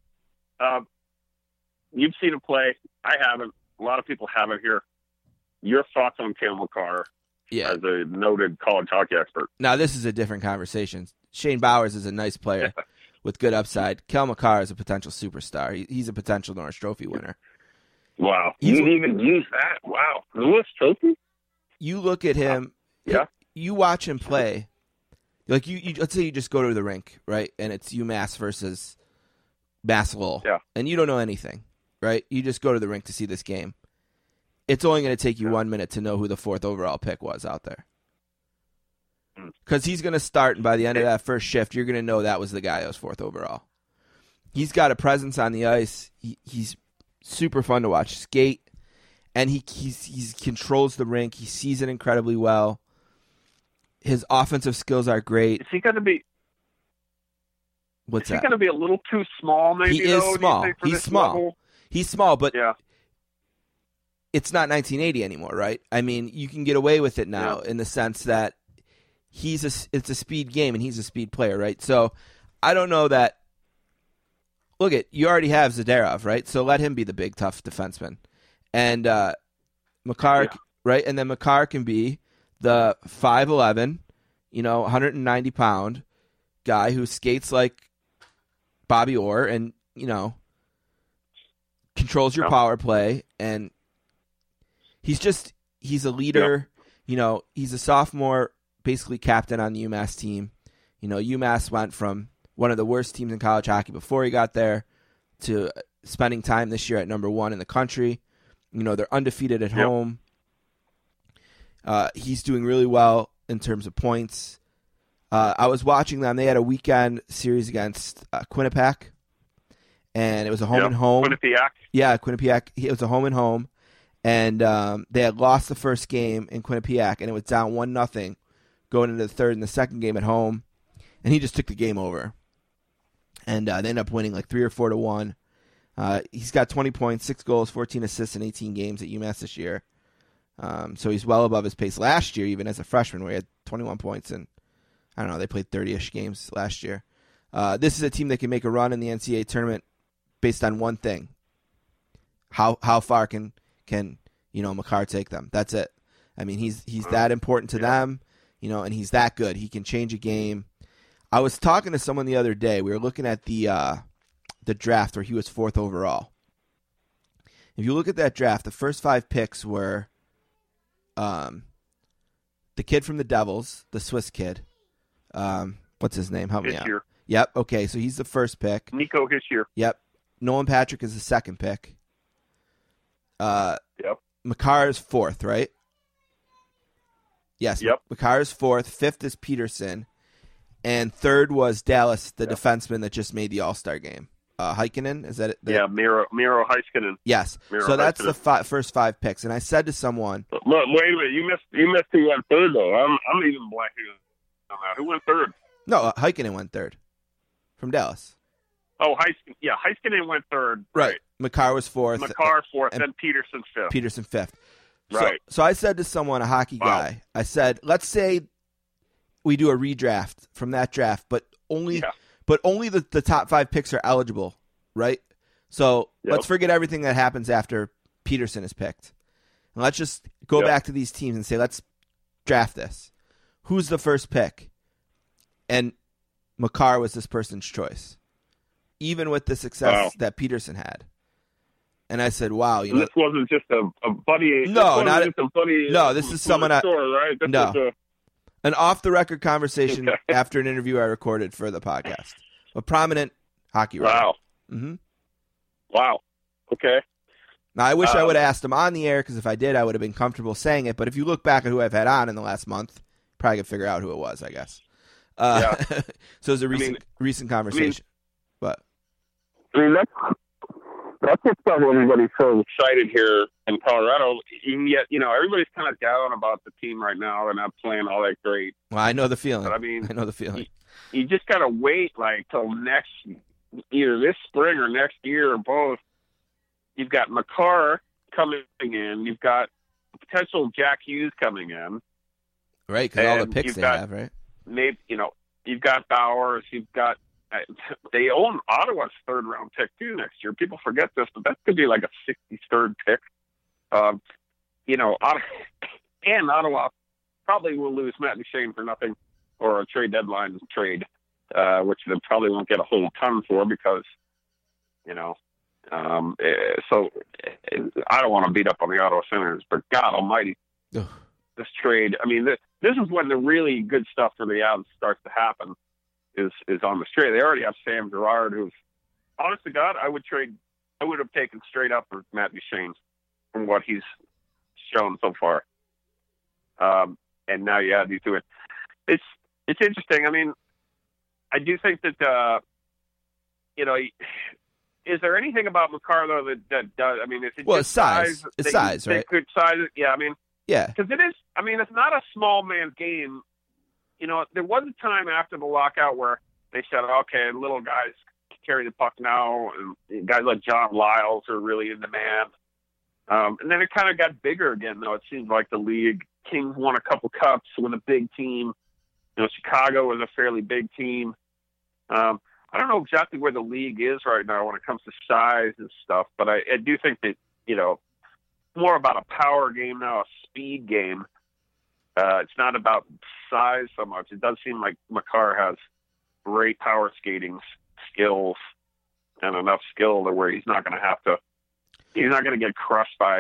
You've seen him play. I haven't. A lot of people haven't here. Your thoughts on Cale Makar as a noted college hockey expert? Now, this is a different conversation. Shane Bowers is a nice player with good upside. Cale Makar is a potential superstar. He's a potential Norris Trophy winner. Wow. You didn't even use that? Wow. Norris Trophy? You look at him. Yeah. You watch him play. Like you let's say you just go to the rink, right? And it's UMass versus Mass Lowell. Yeah. And you don't know anything, right? You just go to the rink to see this game. It's only going to take you 1 minute to know who the 4th overall pick was out there. Because he's going to start, and by the end of that first shift, you're going to know that was the guy that was 4th overall. He's got a presence on the ice. He's super fun to watch skate, and he controls the rink. He sees it incredibly well. His offensive skills are great. Is he going to be? What's that? Is he going to be a little too small? Maybe he is small. Do you think, for He's this small. level? He's small, but yeah. It's not 1980 anymore, right? I mean, you can get away with it now in the sense that it's a speed game and he's a speed player, right? So I don't know that. Look you already have Zadarov, right? So let him be the big tough defenseman, and Makar, right? And then Makar can be the 5'11", 190-pound guy who skates like Bobby Orr and controls your power play, and he's a leader. Yeah. He's a sophomore, basically captain on the UMass team. UMass went from one of the worst teams in college hockey before he got there to spending time this year at number 1 in the country. They're undefeated at home. He's doing really well in terms of points. I was watching them. They had a weekend series against Quinnipiac, and it was a home and home. Quinnipiac? Yeah, Quinnipiac. It was a home and home, and they had lost the first game in Quinnipiac, and it was down 1-0 going into the third and the second game at home, and he just took the game over. And they ended up winning like 3 or 4-1. He's got 20 points, 6 goals, 14 assists in 18 games at UMass this year. So he's well above his pace last year, even as a freshman, where he had 21 points, and I don't know, they played 30-ish games last year. This is a team that can make a run in the NCAA tournament based on one thing: how far can Makar take them? That's it. I mean, he's that important to them, and he's that good. He can change a game. I was talking to someone the other day. We were looking at the draft where he was 4th overall. If you look at that draft, the first 5 picks were the kid from the Devils, the Swiss kid. What's his name? Help me out. Yep. Okay, so he's the first pick. Nico Hischier. Yep. Nolan Patrick is the second pick. Yep. Makar is 4th, right? Yes. Yep. Makar is 4th. 5th is Peterson. And 3rd was Dallas, the defenseman that just made the All-Star game. Heikkinen, is that it? Miro Heiskanen. Yes. Miro so that's Heiskanen. the first 5 picks. And I said to someone, Look, wait a minute, you missed who went 3rd though. I'm even blanking on that. Who went 3rd? No, Heikkinen went 3rd from Dallas. Oh, Heiskanen went 3rd. Right. Makar was 4th. Makar 4th, and then Peterson 5th. Peterson 5th. Right. So I said to someone, a hockey guy, I said, let's say we do a redraft from that draft, but only the top 5 picks are eligible, right? So let's forget everything that happens after Peterson is picked. And let's just go back to these teams and say, let's draft this. who's the first pick? And Makar was this person's choice, even with the success that Peterson had. And I said, wow. You know, this wasn't just a buddy. No, not just a buddy. No, this is someone right? This no. An off-the-record conversation after an interview I recorded for the podcast. A prominent hockey writer. Wow. Mm-hmm. Wow. Okay. Now, I wish I would have asked him on the air, because if I did, I would have been comfortable saying it. But if you look back at who I've had on in the last month, probably could figure out who it was, I guess. Yeah. So it was a recent conversation. But that's what's got everybody so excited here in Colorado. And yet, everybody's kind of down about the team right now. They're not playing all that great. Well, I know the feeling. But, I know the feeling. You just got to wait till either this spring or next year or both. You've got Makar coming in. You've got potential Jack Hughes coming in. Right, because all the picks they have, right? Maybe, you've got Bowers. You've got they own Ottawa's third-round pick, too, next year. People forget this, but that could be like a 63rd pick. And Ottawa probably will lose Matt Duchene for nothing, or a trade deadline trade, which they probably won't get a whole ton for because, so I don't want to beat up on the Ottawa Senators, but God almighty, this trade, this is when the really good stuff for the Avs starts to happen. Is on the trade. They already have Sam Girard, who's, honest to God, I would have taken straight up for Matt Duchene from what he's shown so far. And now you add these to it. It's interesting. I do think that, is there anything about Makar, though, that does, is it just size? It's size, right? Good size. Yeah, yeah. Because it is, it's not a small man's game. There was a time after the lockout where they said, okay, little guys carry the puck now, and guys like John Lyles are really in demand. And then it kind of got bigger again, though. It seems like the league, Kings won a couple cups with a big team. Chicago was a fairly big team. I don't know exactly where the league is right now when it comes to size and stuff, but I do think that, more about a power game now, a speed game. It's not about size so much. It does seem like Makar has great power skating skills and enough skill to where he's not going to get crushed by,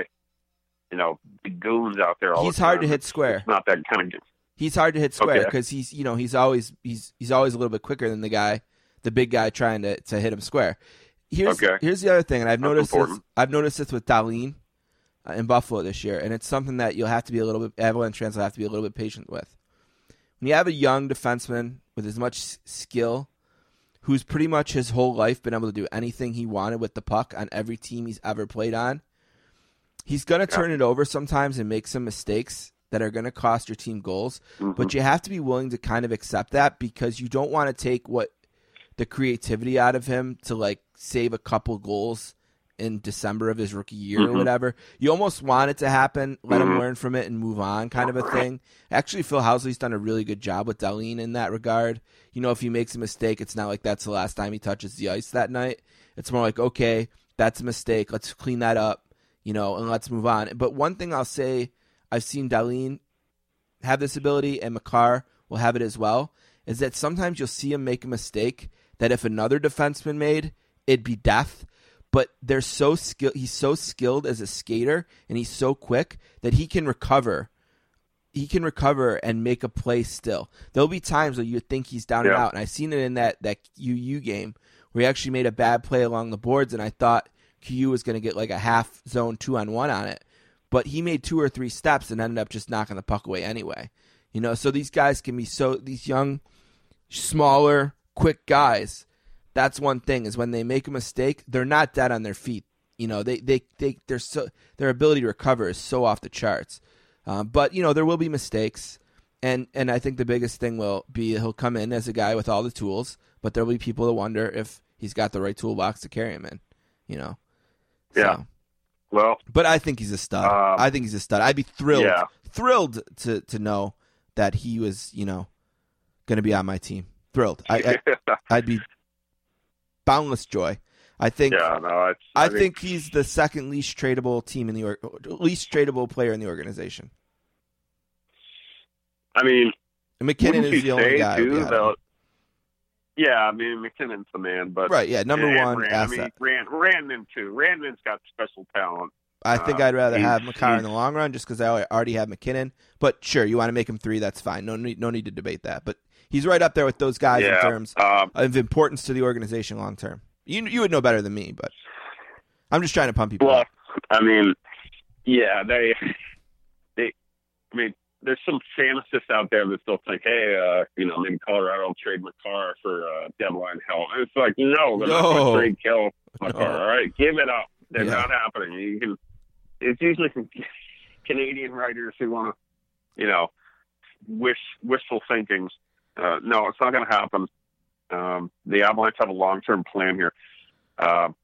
big goons out there. He's hard to hit square. It's not that kind of game. He's hard to hit square because he's always a little bit quicker than the big guy trying to hit him square. Here's the other thing, and I've noticed this with Dahlin in Buffalo this year, and it's something that you'll have to be Avalanche fans will have to be a little bit patient with. When you have a young defenseman with as much skill, who's pretty much his whole life been able to do anything he wanted with the puck on every team he's ever played on, he's going to turn it over sometimes and make some mistakes that are going to cost your team goals, but you have to be willing to kind of accept that because you don't want to take the creativity out of him to save a couple goals in December of his rookie year or whatever. You almost want it to happen, let him learn from it and move on kind of a thing. Actually, Phil Housley's done a really good job with Dahlin in that regard. If he makes a mistake, it's not like that's the last time he touches the ice that night. It's more like, okay, that's a mistake. Let's clean that up, and let's move on. But one thing I'll say, I've seen Dahlin have this ability and Makar will have it as well, is that sometimes you'll see him make a mistake that if another defenseman made, it'd be death. But he's so skilled as a skater, and he's so quick that he can recover. He can recover and make a play still. There'll be times where you think he's down and out, and I've seen it in that UU game where he actually made a bad play along the boards, and I thought QU was going to get a half zone 2-on-1 on it. But he made 2 or 3 steps and ended up just knocking the puck away anyway. So these guys can be these young, smaller, quick guys. That's one thing is when they make a mistake, they're not dead on their feet. Their ability to recover is so off the charts. But there will be mistakes, and I think the biggest thing will be he'll come in as a guy with all the tools, but there'll be people that wonder if he's got the right toolbox to carry him in. Yeah. So. Well, but I think he's a stud. I'd be thrilled to know that he was going to be on my team. Thrilled. I'd be boundless joy. I think he's the second least tradable team in least tradable player in the organization. McKinnon is the only guy. Yeah, I mean, McKinnon's the man, but right, yeah, number one asset. Randon too. Randon's got special talent. I think I'd rather have Makar in the long run just because I already have McKinnon. But sure, you want to make him 3, that's fine. No need to debate that. But he's right up there with those guys in terms of importance to the organization long term. You would know better than me, but I'm just trying to pump people up. I mean, yeah, I mean, there's some fantasists out there that still think, hey, maybe Colorado will trade Makar for deadline help. And it's like, no, they're not going to trade Makar. No. All right, give it up. They're not happening. It's usually some Canadian writers who want to, wishful thinking. No, it's not going to happen. The Avalanche have a long-term plan here. All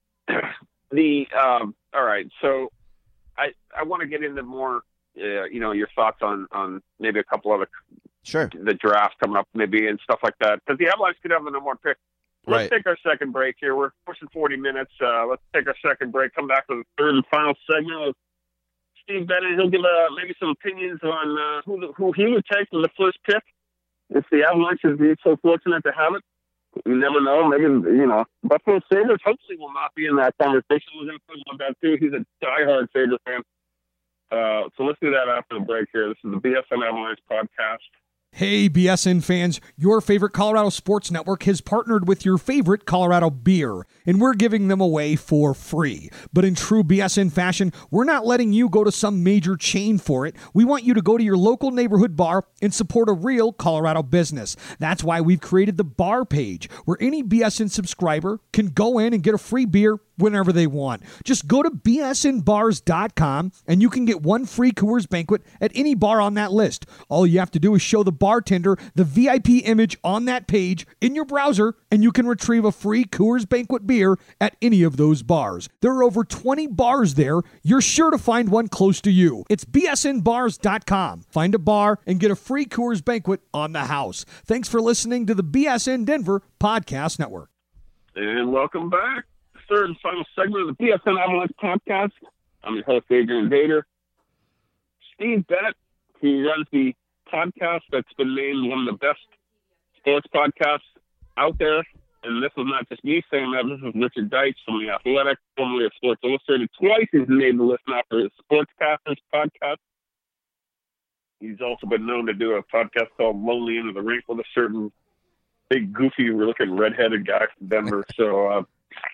right, so I want to get into more. Your thoughts on maybe a couple other the draft coming up maybe and stuff like that, because the Avalanche could have the number 1 pick. Let's take our second break here. We're pushing 40 minutes. Let's take our second break. Come back to the third and final segment of Steve Bennett. He'll give maybe some opinions on who he would take in the first pick if the Avalanche is so fortunate to have it. You never know. Maybe Buffalo Sabres hopefully will not be in that conversation. We're going to put him on that too. He's a diehard Sabres fan. So let's do that after the break here. This is the BSN Avalanche podcast. Hey, BSN fans, your favorite Colorado Sports Network has partnered with your favorite Colorado beer, and we're giving them away for free. But in true BSN fashion, we're not letting you go to some major chain for it. We want you to go to your local neighborhood bar and support a real Colorado business. That's why we've created the bar page, where any BSN subscriber can go in and get a free beer whenever they want. Just go to bsnbars.com and you can get 1 free Coors Banquet at any bar on that list. All you have to do is show the bartender the VIP image on that page in your browser, and you can retrieve a free Coors Banquet beer at any of those bars. There are over 20 bars there. You're sure to find one close to you. It's bsnbars.com. Find a bar and get a free Coors Banquet on the house. Thanks for listening to the BSN Denver Podcast Network. And welcome back. Third and final segment of the BSN Avalanche podcast. I'm your host, Adrian Vader. Steve Bennett, he runs the podcast that's been named one of the best sports podcasts out there. And this is not just me saying that. This is Richard Deitsch from The Athletic, formerly of Sports Illustrated. Twice he's made the list now for his Sportscasters podcast. He's also been known to do a podcast called Lonely End of the Rink with a certain big, goofy-looking redheaded guy from Denver. So,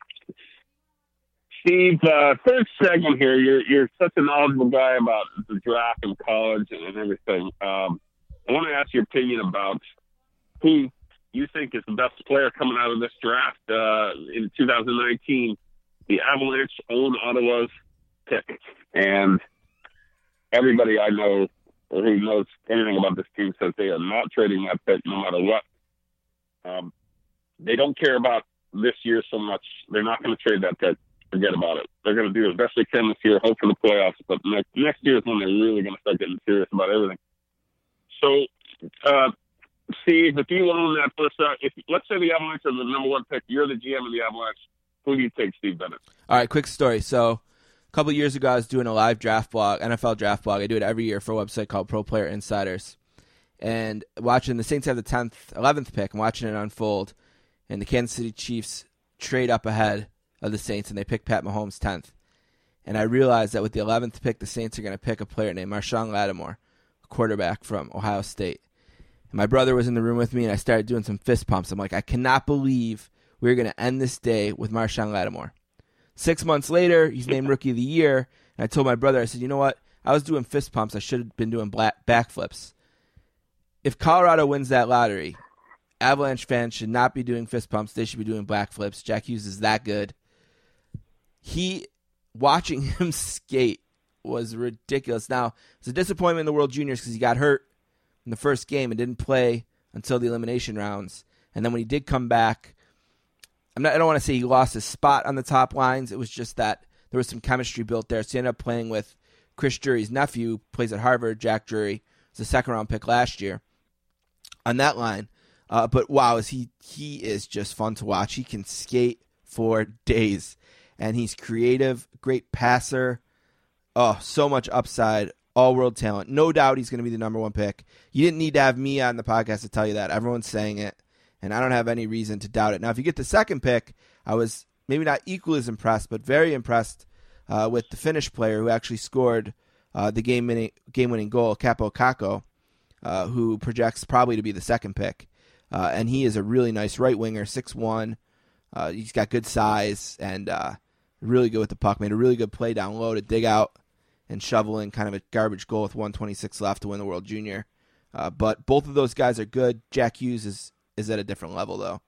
Steve, third segment here. You're such a knowledgeable guy about the draft and college and everything. I want to ask your opinion about who you think is the best player coming out of this draft in 2019. The Avalanche own Ottawa's pick, and everybody I know or who knows anything about this team says they are not trading that pick no matter what. They don't care about this year so much. They're not going to trade that pick. Forget about it. They're going to do as best they can this year, hope for the playoffs, but next year is when they're really going to start getting serious about everything. So, Steve, if you own that first, let's say the Avalanche are the number 1 pick, you're the GM of the Avalanche, who do you take, Steve Bennett? All right, quick story. So, a couple of years ago, I was doing a live draft blog, NFL draft blog. I do it every year for a website called Pro Player Insiders. And watching the Saints have the 11th pick, and watching it unfold, and the Kansas City Chiefs trade up ahead of the Saints, and they pick Pat Mahomes 10th. And I realized that with the 11th pick, the Saints are going to pick a player named Marshawn Lattimore, a quarterback from Ohio State. And my brother was in the room with me, and I started doing some fist pumps. I'm like, I cannot believe we're going to end this day with Marshawn Lattimore. 6 months later, he's named Rookie of the Year, and I told my brother, I said, you know what? I was doing fist pumps. I should have been doing backflips. If Colorado wins that lottery, Avalanche fans should not be doing fist pumps. They should be doing backflips. Jack Hughes is that good. Watching him skate was ridiculous. Now, it's a disappointment in the World Juniors because he got hurt in the first game and didn't play until the elimination rounds. And then when he did come back, I don't want to say he lost his spot on the top lines. It was just that there was some chemistry built there. So he ended up playing with Chris Drury's nephew, plays at Harvard. Jack Drury was a second-round pick last year on that line. But wow, he is just fun to watch. He can skate for days. And he's creative, great passer. Oh, so much upside. all-world talent. No doubt he's going to be the number one pick. You didn't need to have me on the podcast to tell you that. Everyone's saying it, and I don't have any reason to doubt it. Now, if you get the second pick, I was maybe not equally as impressed, but very impressed with the Finnish player who actually scored the game-winning goal, Capo Kakko, who projects probably to be the second pick. And he is a really nice right winger, 6'1". He's got good size and really good with the puck. Made a really good play down low to dig out and shovel in kind of a garbage goal with 1:26 left to win the World Junior. But both of those guys are good. Jack Hughes is at a different level, though.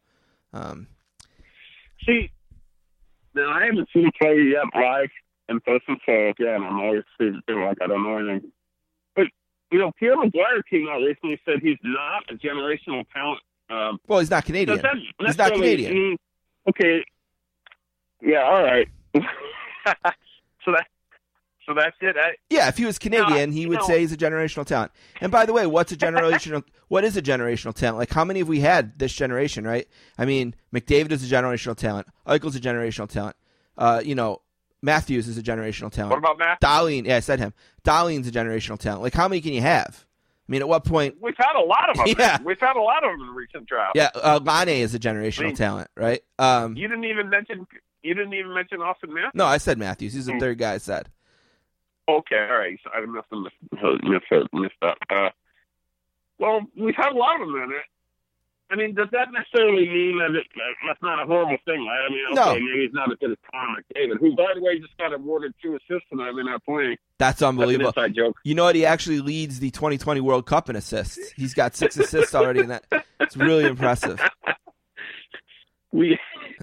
See, now I haven't seen him play yet live in person, so again, I'm always feeling like I don't know anything. But, Pierre McGuire came out recently and said he's not a generational talent. Well, he's not Canadian. He's not Canadian. Okay. Yeah, all right. So that's it. Yeah, if he was Canadian, he would say he's a generational talent. And by the way, what is a generational talent? Like, how many have we had this generation, right? I mean, McDavid is a generational talent. Eichel's a generational talent. Matthews is a generational talent. What about Matthews? Dahlin, yeah, I said him. Dahlin's a generational talent. Like, how many can you have? I mean, at what point? We've had a lot of them. Yeah. We've had a lot of them in recent drafts. Yeah, Lane is a generational talent, right? You didn't even mention Austin Matthews. No, I said Matthews. He's the third guy I said. Okay, all right. So I must have missed that. Well, we've had a lot of them in it. I mean, does that necessarily mean that that's not a horrible thing? Right? I mean, okay, maybe he's not as good as Connor McDavid, who, by the way, just got awarded 2 assists tonight in that playing. That's unbelievable. That's an inside joke. You know what? He actually leads the 2020 World Cup in assists. He's got 6 assists already in that. It's really impressive. We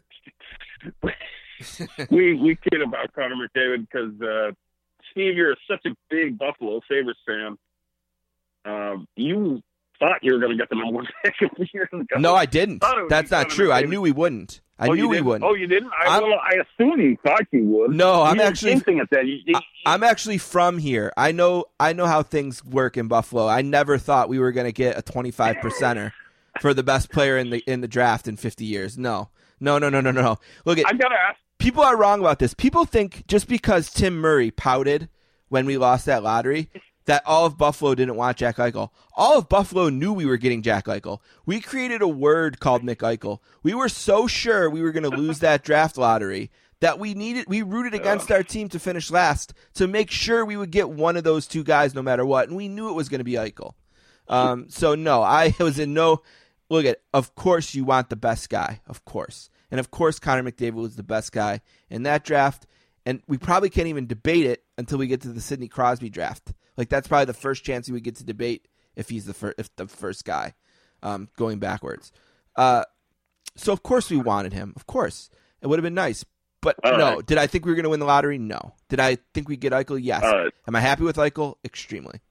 kid about Connor McDavid because, Steve, you're such a big Buffalo Sabres fan. You thought you were going to get the number 1 pick a few years ago. No, I didn't. That's not true. I knew we wouldn't. I knew we wouldn't. Oh, you didn't? I assumed you thought you would. No, I'm actually. That. I'm actually from here. I know how things work in Buffalo. I never thought we were going to get a 25%er for the best player in the draft in 50 years. No. Look at. I gotta ask. People are wrong about this. People think just because Tim Murray pouted when we lost that lottery that all of Buffalo didn't want Jack Eichel. All of Buffalo knew we were getting Jack Eichel. We created a word called McEichel. We were so sure we were going to lose that draft lottery that we rooted against our team to finish last to make sure we would get one of those 2 guys no matter what, and we knew it was going to be Eichel. So no, I was in no. Look at. Of course, you want the best guy. Of course. And, of course, Connor McDavid was the best guy in that draft. And we probably can't even debate it until we get to the Sidney Crosby draft. Like, that's probably the first chance we would get to debate if he's the first guy going backwards. So, of course, we wanted him. Of course. It would have been nice. But, no. Right. Did I think we were going to win the lottery? No. Did I think we'd get Eichel? Yes. Right. Am I happy with Eichel? Extremely.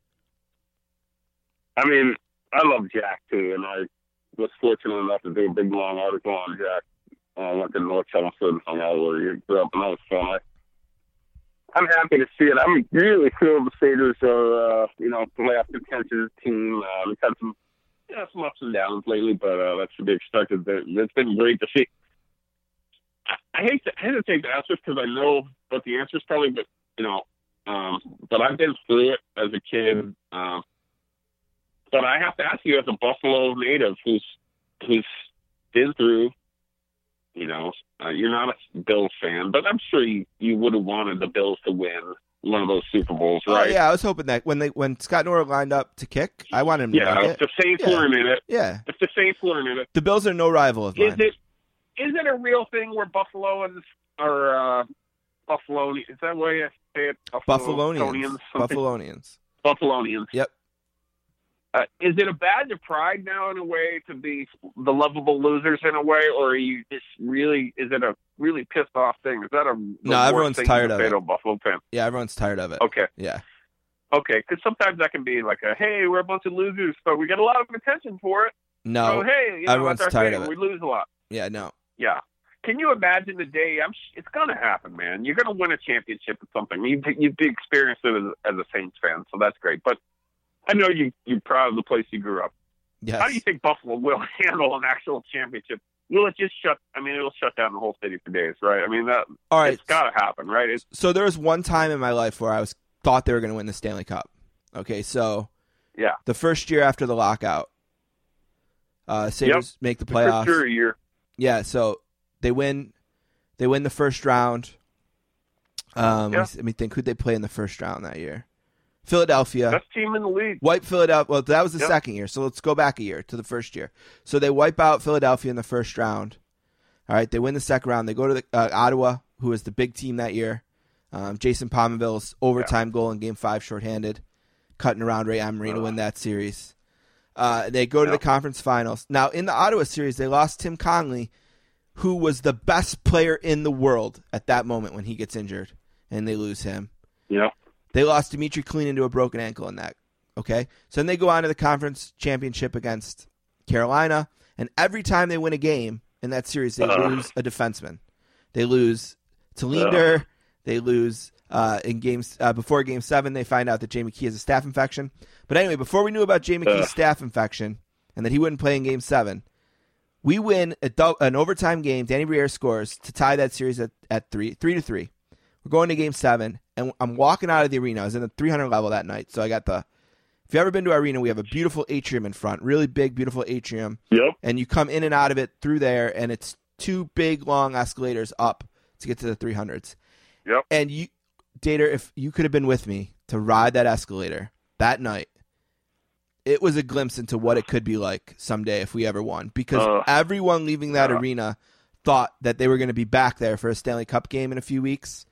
I mean, I love Jack, too, and I was fortunate enough to do a big, long article on Jack. I went to North Chelmsford, hung out where he grew up, and that was fun. I'm happy to see it. I'm really thrilled the Sabres are, playoff contention team. We've had some ups and downs lately, but that's to be expected. It's been great to see. I hesitate to ask this because I know what the answer is probably, but but I've been through it as a kid. But I have to ask you, as a Buffalo native who's been through. You're not a Bills fan, but I'm sure you would have wanted the Bills to win one of those Super Bowls, right? Oh, yeah, I was hoping that when Scott Norwood lined up to kick, I wanted him to make it. If the Saints weren't in it. Yeah. If the Saints weren't in it. The Bills are no rival of mine. Is it a real thing where Buffaloans are Buffalo? Is that the way you say it? Buffalonians. Buffalonians. Yep. Is it a badge of pride now, in a way, to be the lovable losers in a way, or are you just really? Is it a really pissed off thing? Is that no? Everyone's tired of it. Buffalo fan? Yeah, everyone's tired of it. Okay. Yeah. Okay, because sometimes that can be like hey, we're a bunch of losers, but we get a lot of attention for it. No. So, hey, everyone's tired of it. We lose a lot. Yeah. No. Yeah. Can you imagine the day? It's going to happen, man. You're going to win a championship or something. You've experienced it as a Saints fan, so that's great. But I know you're proud of the place you grew up. Yes. How do you think Buffalo will handle an actual championship? Will it just it'll shut down the whole city for days, right? I mean, all right. It's got to happen, right? So there was one time in my life where I was thought they were going to win the Stanley Cup. Okay, so Yeah. the first year after the lockout, Sabres make the playoffs. For sure, year. Yeah, so they win the first round. Let me think. Who'd they play in the first round that year? Philadelphia. Best team in the league. Wipe Philadelphia. Well, that was the second year, so let's go back a year to the first year. So they wipe out Philadelphia in the first round. All right, they win the second round. They go to Ottawa, who was the big team that year. Jason Pominville's overtime goal in Game 5 shorthanded, cutting around Ray Emery to win that series. They go to the conference finals. Now, in the Ottawa series, they lost Tim Connolly, who was the best player in the world at that moment when he gets injured, and they lose him. Yeah. They lost Dimitri Kalinin to a broken ankle in that. Okay? So then they go on to the conference championship against Carolina, and every time they win a game in that series, they lose a defenseman. They lose Talinder. They lose in games before Game 7. They find out that Jay McKee has a staph infection. But anyway, before we knew about Jay McKee's staph infection and that he wouldn't play in Game 7, we win an overtime game. Danny Briere scores to tie that series at 3-3. We're going to Game 7, and I'm walking out of the arena. I was in the 300 level that night, so I got the. If you've ever been to our arena, we have a beautiful atrium in front, really big, beautiful atrium. Yep. And you come in and out of it through there, and it's 2 big, long escalators up to get to the 300s. Yep. And you, Dater, if you could have been with me to ride that escalator that night, it was a glimpse into what it could be like someday if we ever won. Because everyone leaving that arena thought that they were going to be back there for a Stanley Cup game in a few weeks,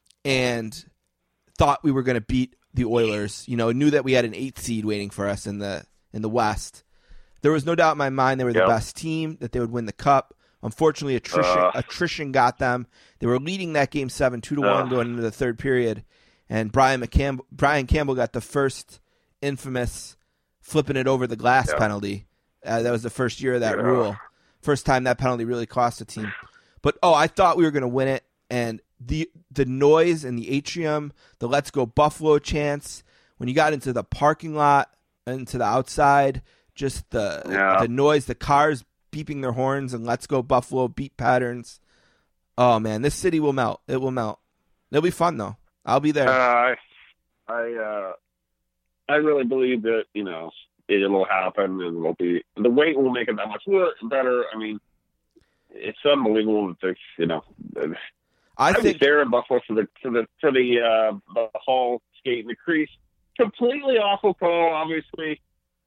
and thought we were going to beat the Oilers. You know, knew that we had an 8th seed waiting for us in the West. There was no doubt in my mind they were the best team, that they would win the Cup. Unfortunately, attrition got them. They were leading that Game 7 2-1 going into the third period, and Brian Campbell got the first infamous flipping it over the glass penalty. That was the first year of that rule. First time that penalty really cost a team. But I thought we were going to win it, and the noise in the atrium, the "Let's Go Buffalo" chants, when you got into the parking lot, into the outside, just the noise, the cars beeping their horns and "Let's Go Buffalo" beat patterns. Oh man, this city will melt. It will melt. It'll be fun though. I'll be there. I really believe that it'll happen, and it'll be, the wait will make it that much better. I mean, it's unbelievable that I was there in Buffalo for the Hall skate in the crease. Completely awful call, obviously.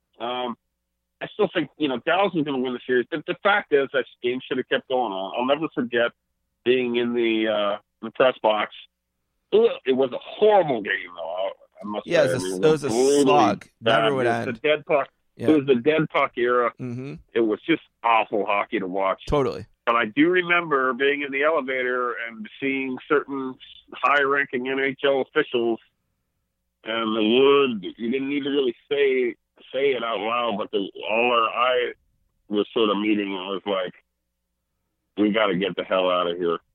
I still think, Dallas is going to win the series. The fact is that game should have kept going on. I'll never forget being in the press box. It was a horrible game, though. I must say. It was a slog. Never would end. It was the dead puck. Yeah. It was the dead puck era. Mm-hmm. It was just awful hockey to watch. Totally. But I do remember being in the elevator and seeing certain high-ranking NHL officials, and the word, you didn't need to really say it out loud, but all our eye was sort of meeting, and it was like, we got to get the hell out of here.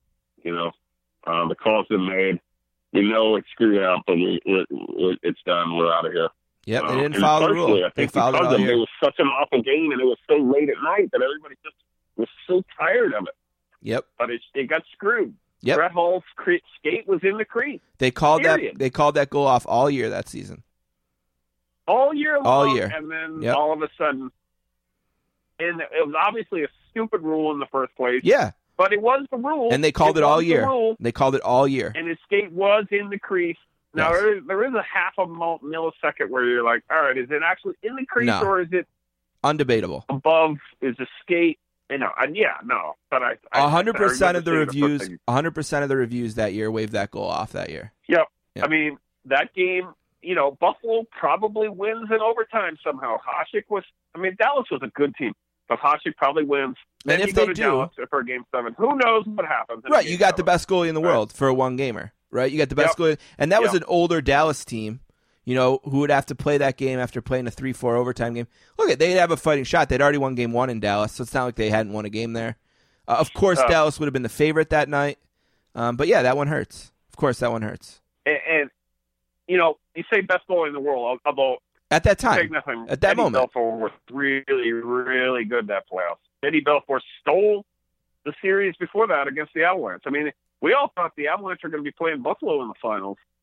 The call's been made. We know it's screwed up, but it's done. We're out of here. Yep, they didn't follow the rule. I think because it was such an awful game, and it was so late at night that everybody just was so tired of it. Yep. But it got screwed. Yep. Brett Hall's skate was in the crease. They called that goal off all year that season. All year long. All year. And then all of a sudden, and it was obviously a stupid rule in the first place. Yeah. But it was the rule. And they called it all year. They called it all year. And his skate was in the crease. Now, there is a half a millisecond where you're like, all right, is it actually in the crease or is it undebatable above? Is the skate? No. But 100% of the reviews, 100% of the reviews that year waved that goal off that year. Yep. I mean, that game, Buffalo probably wins in overtime somehow. Dallas was a good team, but Hasek probably wins. Then And if you go they to do, Dallas for Game 7, who knows what happens? Right, you got the best goalie in the world for a one-gamer, right? You got the best goalie, and that was an older Dallas team, who would have to play that game after playing a 3-4 overtime game. Look, they'd have a fighting shot. They'd already won Game 1 in Dallas, so it's not like they hadn't won a game there. Of course, Dallas would have been the favorite that night, but yeah, that one hurts. Of course, that one hurts. And you say best goalie in the world, although at that time, at that moment, Eddie Belfour was really, really good that playoffs. Eddie Belfour stole the series before that against the Avalanche. I mean, we all thought the Avalanche were going to be playing Buffalo in the finals.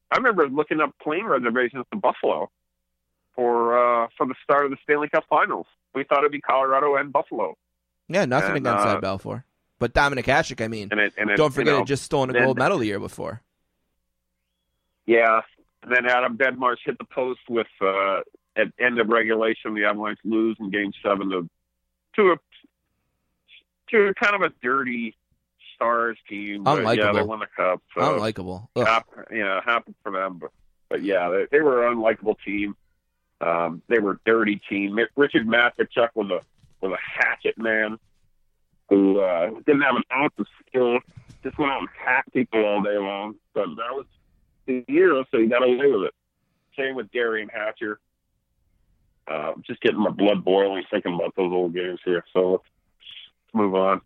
I remember looking up plane reservations to Buffalo for the start of the Stanley Cup Finals. We thought it'd be Colorado and Buffalo. Yeah, nothing against Ed Belfour. But Dominic Hasek, I mean, don't forget, had just stolen a gold medal the year before. Yeah, and then Adam Bedmarsh hit the post with at end of regulation, the Avalanche lose in Game 7 to a kind of a dirty Stars team. But unlikable. Yeah, they won the Cup. So unlikable. Happy for them. But yeah, they were an unlikable team. They were a dirty team. Richard Matvichuk was a hatchet man who didn't have an ounce of skill. Just went out and hacked people all day long. But that was the year, so he got away with it. Same with Darian Hatcher. Just getting my blood boiling thinking about those old games here. So let's move on.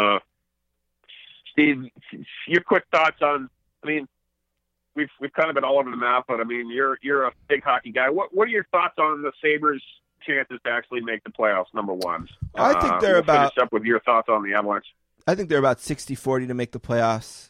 Steve, your quick thoughts on? I mean, we've kind of been all over the map, but I mean, you're a big hockey guy. What are your thoughts on the Sabres' chances to actually make the playoffs? Number one, I think they're about. Finish up with your thoughts on the Avalanche. I think they're about 60-40 to make the playoffs.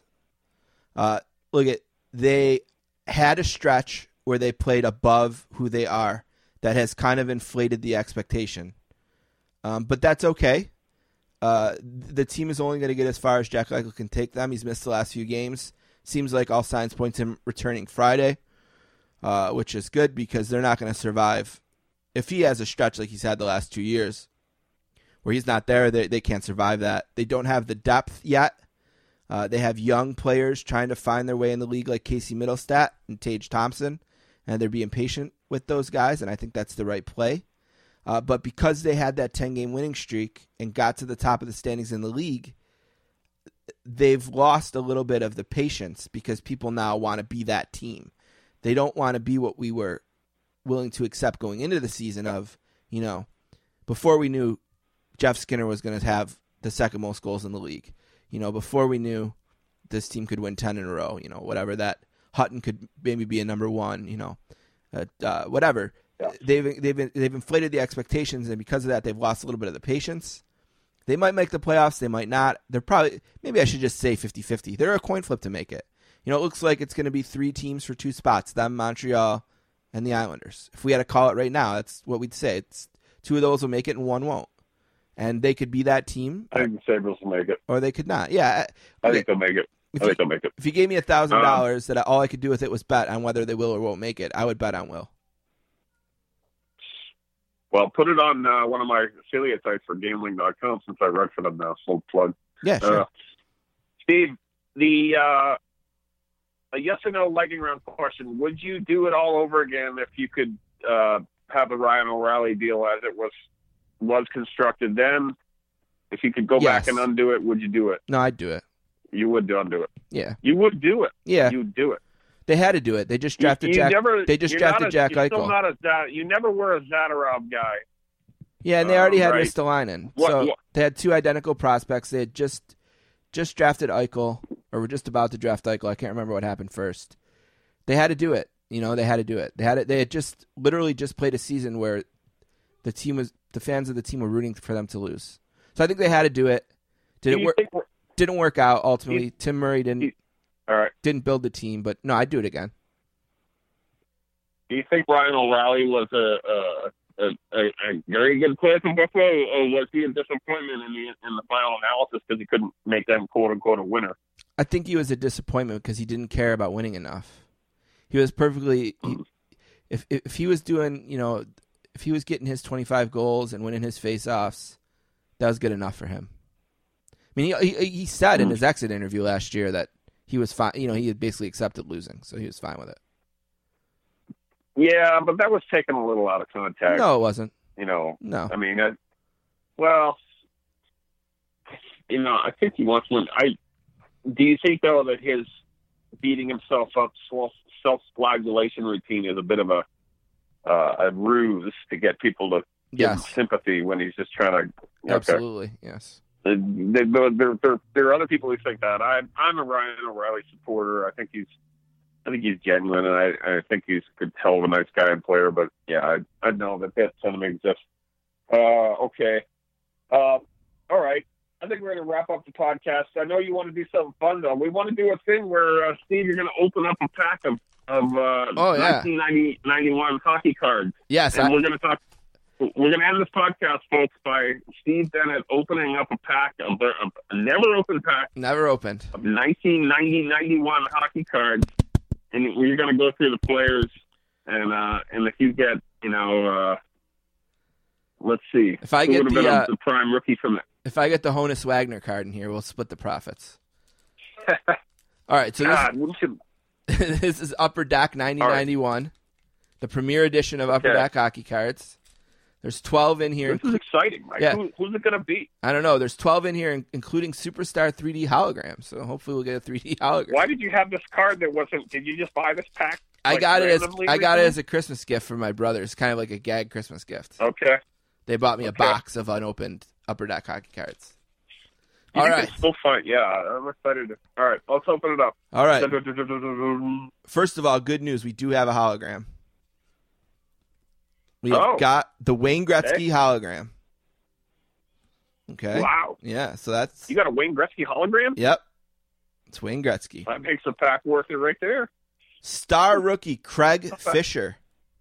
They had a stretch where they played above who they are. That has kind of inflated the expectation. But that's okay. The team is only going to get as far as Jack Eichel can take them. He's missed the last few games. Seems like all signs point to him returning Friday, which is good because they're not going to survive. If he has a stretch like he's had the last 2 years where he's not there, they can't survive that. They don't have the depth yet. They have young players trying to find their way in the league like Casey Middlestat and Tage Thompson, and they're being patient with those guys, and I think that's the right play. But because they had that 10-game winning streak and got to the top of the standings in the league, they've lost a little bit of the patience because people now want to be that team. They don't want to be what we were willing to accept going into the season of, before we knew Jeff Skinner was going to have the second most goals in the league. Before we knew this team could win 10 in a row, whatever, that Hutton could maybe be a number one, whatever. Yeah. They've inflated the expectations, and because of that, they've lost a little bit of the patience. They might make the playoffs. They might not. They're probably, maybe I should just say 50-50. They're a coin flip to make it. It looks like it's going to be 3 teams for 2 spots, them, Montreal, and the Islanders. If we had to call it right now, that's what we'd say. It's 2 of those will make it and 1 won't. And they could be that team. I think the Sabres will make it. Or they could not. Yeah. I think they'll make it. They'll make it. If you gave me $1,000 that all I could do with it was bet on whether they will or won't make it, I would bet on will. Well, put it on one of my affiliate sites for gambling.com since I write for them now. Full plug. Yeah, sure. Steve, a yes or no lightning round question. Would you do it all over again if you could have the Ryan O'Reilly deal as it was constructed then? If you could go back and undo it, would you do it? No, I'd do it. You would undo it. Yeah. You would do it. Yeah. You would do it. They had to do it. They just drafted Jack Eichel. You never were a Zadorov guy. Yeah, and they already had Ristolainen. So they had 2 identical prospects. They had just drafted Eichel, or were just about to draft Eichel. I can't remember what happened first. They had to do it. They had to do it. They had just literally just played a season where the fans of the team were rooting for them to lose. So I think they had to do it. Didn't work out ultimately. Tim Murray didn't build the team, but no, I'd do it again. Do you think Ryan O'Reilly was a very good player for Buffalo, or was he a disappointment in the final analysis because he couldn't make them quote unquote a winner? I think he was a disappointment because he didn't care about winning enough. He was perfectly. If he was doing, if he was getting his 25 goals and winning his face-offs, that was good enough for him. I mean, he said in his exit interview last year that he was fine. He had basically accepted losing, so he was fine with it. Yeah, but that was taken a little out of context. No, it wasn't. No. I mean, I think he wants one. Do you think, though, that his beating himself up, self-flagellation routine is a bit of a ruse to get people to give him sympathy when he's just trying to... Absolutely, yes. There are other people who think that. I'm a Ryan O'Reilly supporter. I think he's genuine, and I think he's a good, hell of a nice guy and player. But yeah, I know that sentiment exists. Okay. All right. I think we're going to wrap up the podcast. I know you want to do something fun, though. We want to do a thing where, Steve, you're going to open up a pack of 1991 hockey cards. Yes, and we're going to talk. We're going to end this podcast, folks, by Steve Bennett opening up a pack, a never opened pack. Never opened. Of 1990-91 hockey cards. And we're going to go through the players. And if you get, let's see. If I get the prime rookie from that. If I get the Honus Wagner card in here, we'll split the profits. All right, so this is Upper Deck 9091, the premier edition of Upper Deck hockey cards. There's 12 in here. This is exciting, Mike. Yeah. Who's it going to be? I don't know. There's 12 in here, including Superstar 3D holograms. So hopefully we'll get a 3D hologram. Why did you have this card that wasn't? Did you just buy this pack? I got it as a Christmas gift from my brother. It's kind of like a gag Christmas gift. Okay. They bought me a box of unopened Upper Deck hockey cards. All right. Still fine. Yeah, I'm excited. All right, let's open it up. All right. First of all, good news. We do have a hologram. We have got the Wayne Gretzky hologram. Okay. Wow. Yeah, so that's... You got a Wayne Gretzky hologram? Yep. It's Wayne Gretzky. That makes the pack worth it right there. Star rookie Craig Fisher.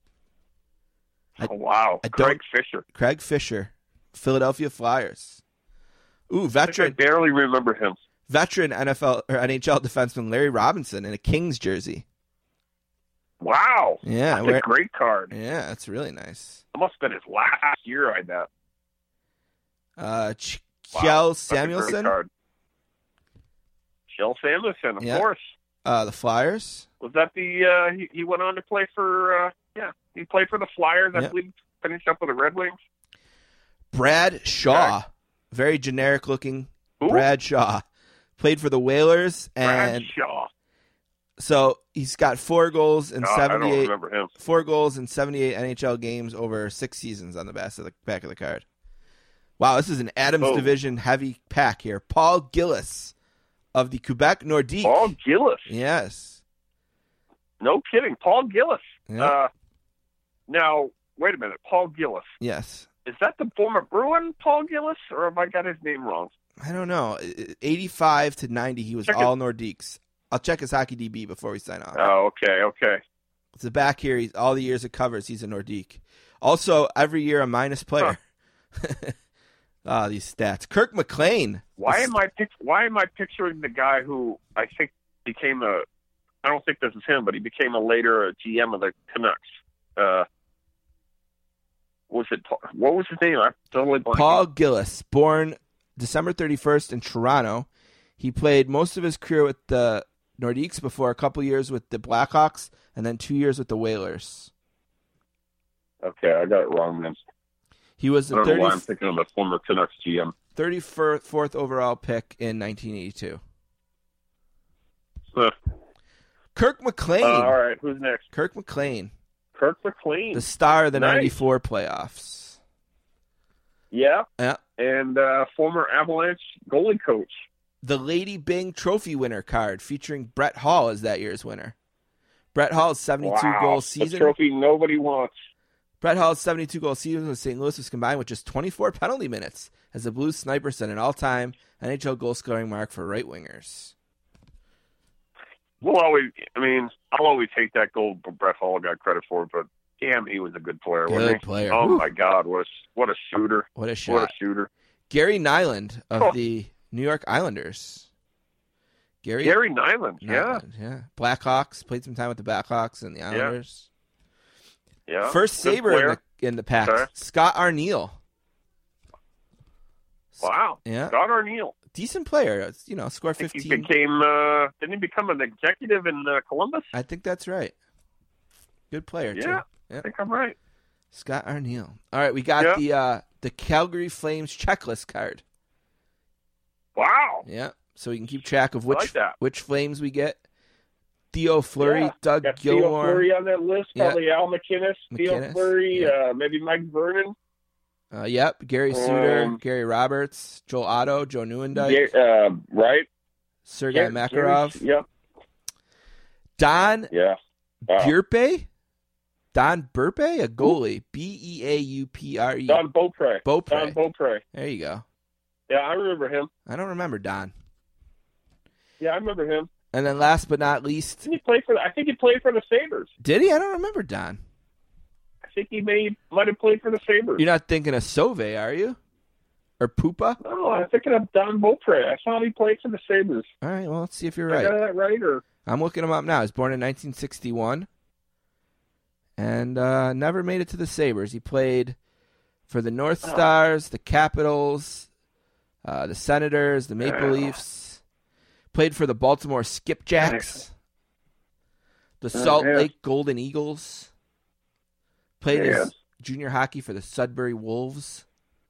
Wow. Craig Fisher. Craig Fisher. Philadelphia Flyers. Ooh, veteran. I barely remember him. Veteran NFL or NHL defenseman Larry Robinson in a Kings jersey. Wow. Yeah. That's a great card. Yeah, that's really nice. It must have been his last year, I bet. Kjell Samuelsson. Kjell Samuelsson, of course. The Flyers. Was that the he went on to play for he played for the Flyers, I believe, finished up with the Red Wings. Brad Shaw. Very generic looking. Who? Brad Shaw. Played for the Whalers and Brad Shaw. So he's got 4 goals in 78. I don't remember him. 4 goals in 78 NHL games over 6 seasons on the back of the card. Wow, this is an Adams Division heavy pack here. Paul Gillis of the Quebec Nordique. Paul Gillis. Yes. No kidding. Paul Gillis. Yeah. Now, wait a minute. Paul Gillis. Yes. Is that the former Bruin Paul Gillis, or have I got his name wrong? I don't know. 85 to 90, he was all Nordiques. I'll check his Hockey DB before we sign off. Oh, okay. It's the back here. All the years it covers, he's a Nordique. Also, every year a minus player. These stats. Kirk McLean. Why am I picturing the guy who I think became I don't think this is him, but he became later a GM of the Canucks. What was his name? I'm totally blanking. Paul Gillis, born December 31st in Toronto. He played most of his career with the Nordiques before a couple years with the Blackhawks and then 2 years with the Whalers. Okay, I got it wrong then. He was the I don't know why I'm thinking of the former Canucks GM. 34th overall pick in 1982. Kirk McLean. All right, who's next? Kirk McLean. Kirk McLean. The star of the 94 playoffs. Yeah. Yeah. And former Avalanche goalie coach. The Lady Byng Trophy winner card featuring Brett Hall as that year's winner. Brett Hall's 72-goal season. A trophy nobody wants. Brett Hall's 72-goal season with St. Louis was combined with just 24 penalty minutes as the Blues sniper set an all-time NHL goal-scoring mark for right-wingers. I'll always hate that goal Brett Hall got credit for, but damn, he was a good player. Good player. Oh, Woo. my God, what a shooter. What a shot. What a shooter. Gary Nyland of the New York Islanders. Gary Nyland, yeah. Blackhawks, played some time with the Blackhawks and the Islanders. Yeah. First Sabre in the pack, Okay. Scott Arniel. Wow. Yeah. Scott Arniel. Decent player. Scored 15. He didn't he become an executive in Columbus? I think that's right. Good player, too. Yeah, I think I'm right. Scott Arniel. All right, we got the Calgary Flames checklist card. Wow. Yeah, so we can keep track of which Flames we get. Theo Fleury, Doug got Gilmour. Theo Fleury on that list. Probably Al McInnes. Theo McInnes, Fleury, maybe Mike Vernon. Yep, Gary Suter, Gary Roberts, Joel Otto, Joe Nieuwendyk. Right. Sergei Makarov. Yep. Don Burpe? Don Burpe, a goalie. Beaupre. Don Beaupre. Don Beaupre. There you go. Yeah, I remember him. I don't remember Don. Yeah, I remember him. And then last but not least, I think he played for the Sabres. Did he? I don't remember Don. I think he might have played for the Sabres. You're not thinking of Sauvé, are you? Or Pupa? No, I'm thinking of Don Beaupre. I thought he played for the Sabres. All right, well, let's see if you're I right. got that right, or I'm looking him up now. He was born in 1961 and never made it to the Sabres. He played for the North Stars, the Capitals, the Senators, the Maple Leafs. Played for the Baltimore Skipjacks, the Salt Lake Golden Eagles. Played his junior hockey for the Sudbury Wolves.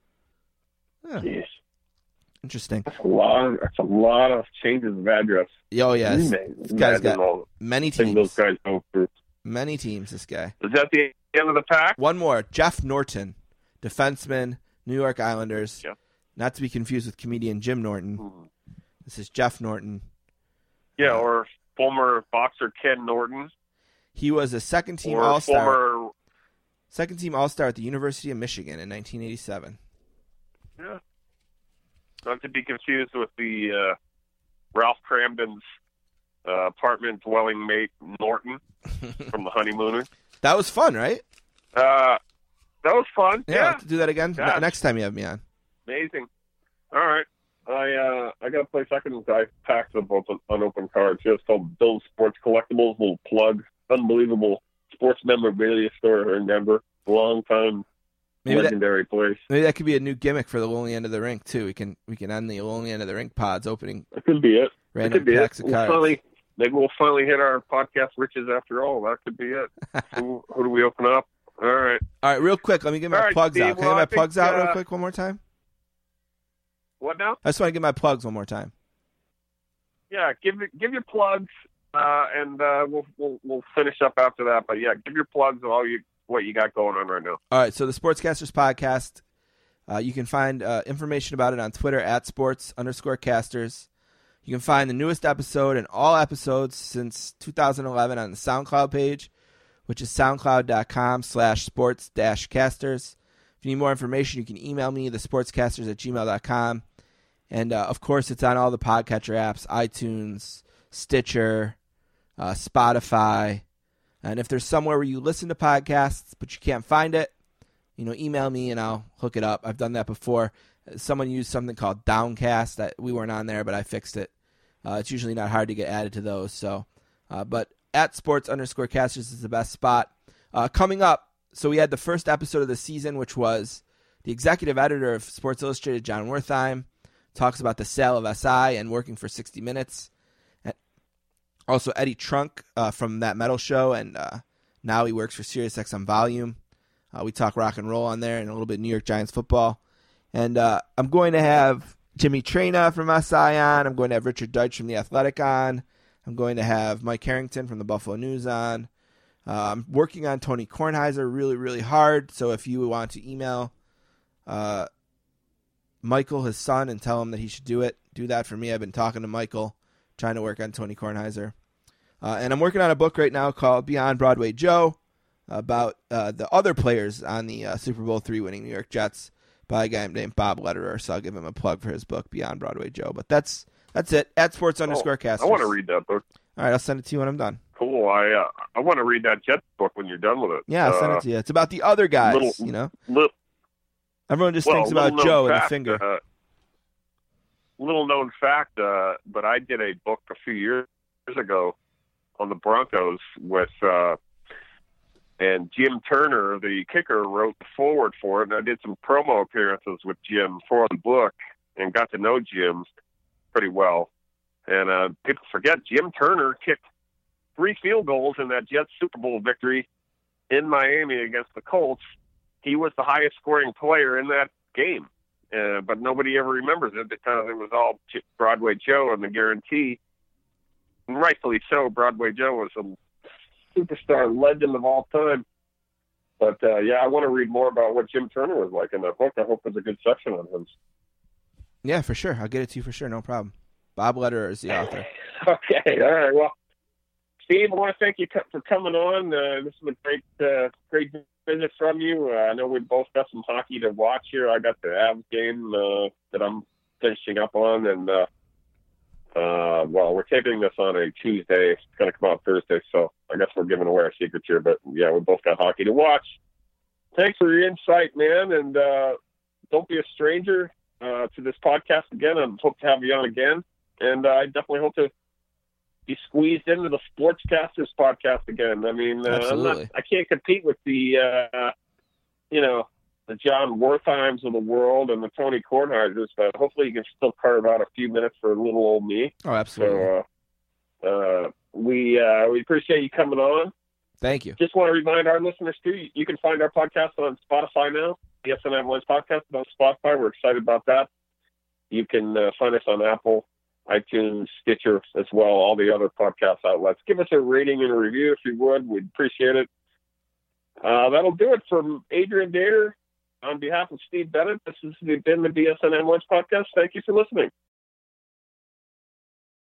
Jeez. Interesting. That's a lot of changes of address. Oh, yes. This guy's got many teams. Those guys go through. Many teams, this guy. Is that the end of the pack? One more. Jeff Norton, defenseman, New York Islanders. Yep. Not to be confused with comedian Jim Norton. This is Jeff Norton. Yeah, or former boxer Ken Norton. He was a second-team All-Star. Second-team All-Star at the University of Michigan in 1987. Yeah. Not to be confused with the Ralph Cramden's apartment dwelling mate Norton from The Honeymooners. That was fun, right? That was fun. Yeah, I'll have to do that again next time you have me on. Amazing. All right. I got a place I packed of unopened cards. It's called Bill's Sports Collectibles. Little plug. Unbelievable sports memorabilia store here in Denver. Long time. Legendary place. Maybe that could be a new gimmick for the Lonely End of the Rink too. We can end the Lonely End of the Rink pods opening. That could be it. Random packs of cards. Maybe we'll finally hit our podcast riches after all. That could be it. who do we open up? All right. Real quick. Let me get my plugs out. Can I get my plugs out real quick one more time? What now? I just want to get my plugs one more time. Yeah, give your plugs, and we'll finish up after that. But yeah, give your plugs of what you got going on right now. All right, so the Sportscasters Podcast, you can find information about it on Twitter at @sports_casters. You can find the newest episode and all episodes since 2011 on the SoundCloud page, which is soundcloud.com/sports-casters. If you need more information, you can email me, thesportscasters@gmail.com. And, of course, it's on all the podcatcher apps, iTunes, Stitcher, Spotify. And if there's somewhere where you listen to podcasts but you can't find it, email me and I'll hook it up. I've done that before. Someone used something called Downcast. We weren't on there, but I fixed it. It's usually not hard to get added to those. So, but at @sports_casters is the best spot. Coming up, so we had the first episode of the season, which was the executive editor of Sports Illustrated, John Wertheim, talks about the sale of SI and working for 60 Minutes. Also, Eddie Trunk from That Metal Show, and now he works for SiriusXM Volume. We talk rock and roll on there and a little bit New York Giants football. And I'm going to have Jimmy Traina from SI on. I'm going to have Richard Deitsch from The Athletic on. I'm going to have Mike Harrington from the Buffalo News on. I'm working on Tony Kornheiser really, really hard. So if you want to email Michael, his son, and tell him that he should do that for me. I've been talking to Michael, trying to work on Tony Kornheiser. And I'm working on a book right now called Beyond Broadway Joe about the other players on the Super Bowl III winning New York Jets by a guy named Bob Lederer. So I'll give him a plug for his book, Beyond Broadway Joe. But that's it, at @sports_casters. I want to read that book. All right, I'll send it to you when I'm done. Cool. I want to read that Jets book when you're done with it. Yeah, I'll send it to you. It's about the other guys, Everyone just thinks about Joe and the finger. Little known fact, but I did a book a few years ago on the Broncos with, and Jim Turner, the kicker, wrote the forward for it, and I did some promo appearances with Jim for the book and got to know Jim pretty well. And people forget Jim Turner kicked 3 field goals in that Jets Super Bowl victory in Miami against the Colts. He was the highest scoring player in that game. But nobody ever remembers it because it was all Broadway Joe and the guarantee. And rightfully so, Broadway Joe was a superstar legend of all time. But, I want to read more about what Jim Turner was like in that book. I hope there's a good section on him. Yeah, for sure. I'll get it to you for sure. No problem. Bob Lederer is the author. Okay. All right. Well, Steve, I want to thank you for coming on. This is a great visit from you. I know we both got some hockey to watch here. I got the Avs game that I'm finishing up on, and Well, we're taping this on a Tuesday. It's going to come out Thursday, so I guess we're giving away our secrets here. But, yeah, we both got hockey to watch. Thanks for your insight, man, and don't be a stranger to this podcast again. I hope to have you on again, and I definitely hope to be squeezed into the Sportscasters podcast again. I mean, I can't compete with the, the John Wertheims of the world and the Tony Kornheisers, but hopefully you can still carve out a few minutes for little old me. Oh, absolutely. So we appreciate you coming on. Thank you. Just want to remind our listeners, too, you can find our podcast on Spotify now. BSN Avalanche Podcast is on Spotify. We're excited about that. You can find us on Apple, iTunes, Stitcher as well, all the other podcast outlets. Give us a rating and a review if you would. We'd appreciate it. That'll do it from Adrian Dater. On behalf of Steve Bennett, this has been the BSN Avalanche Podcast. Thank you for listening.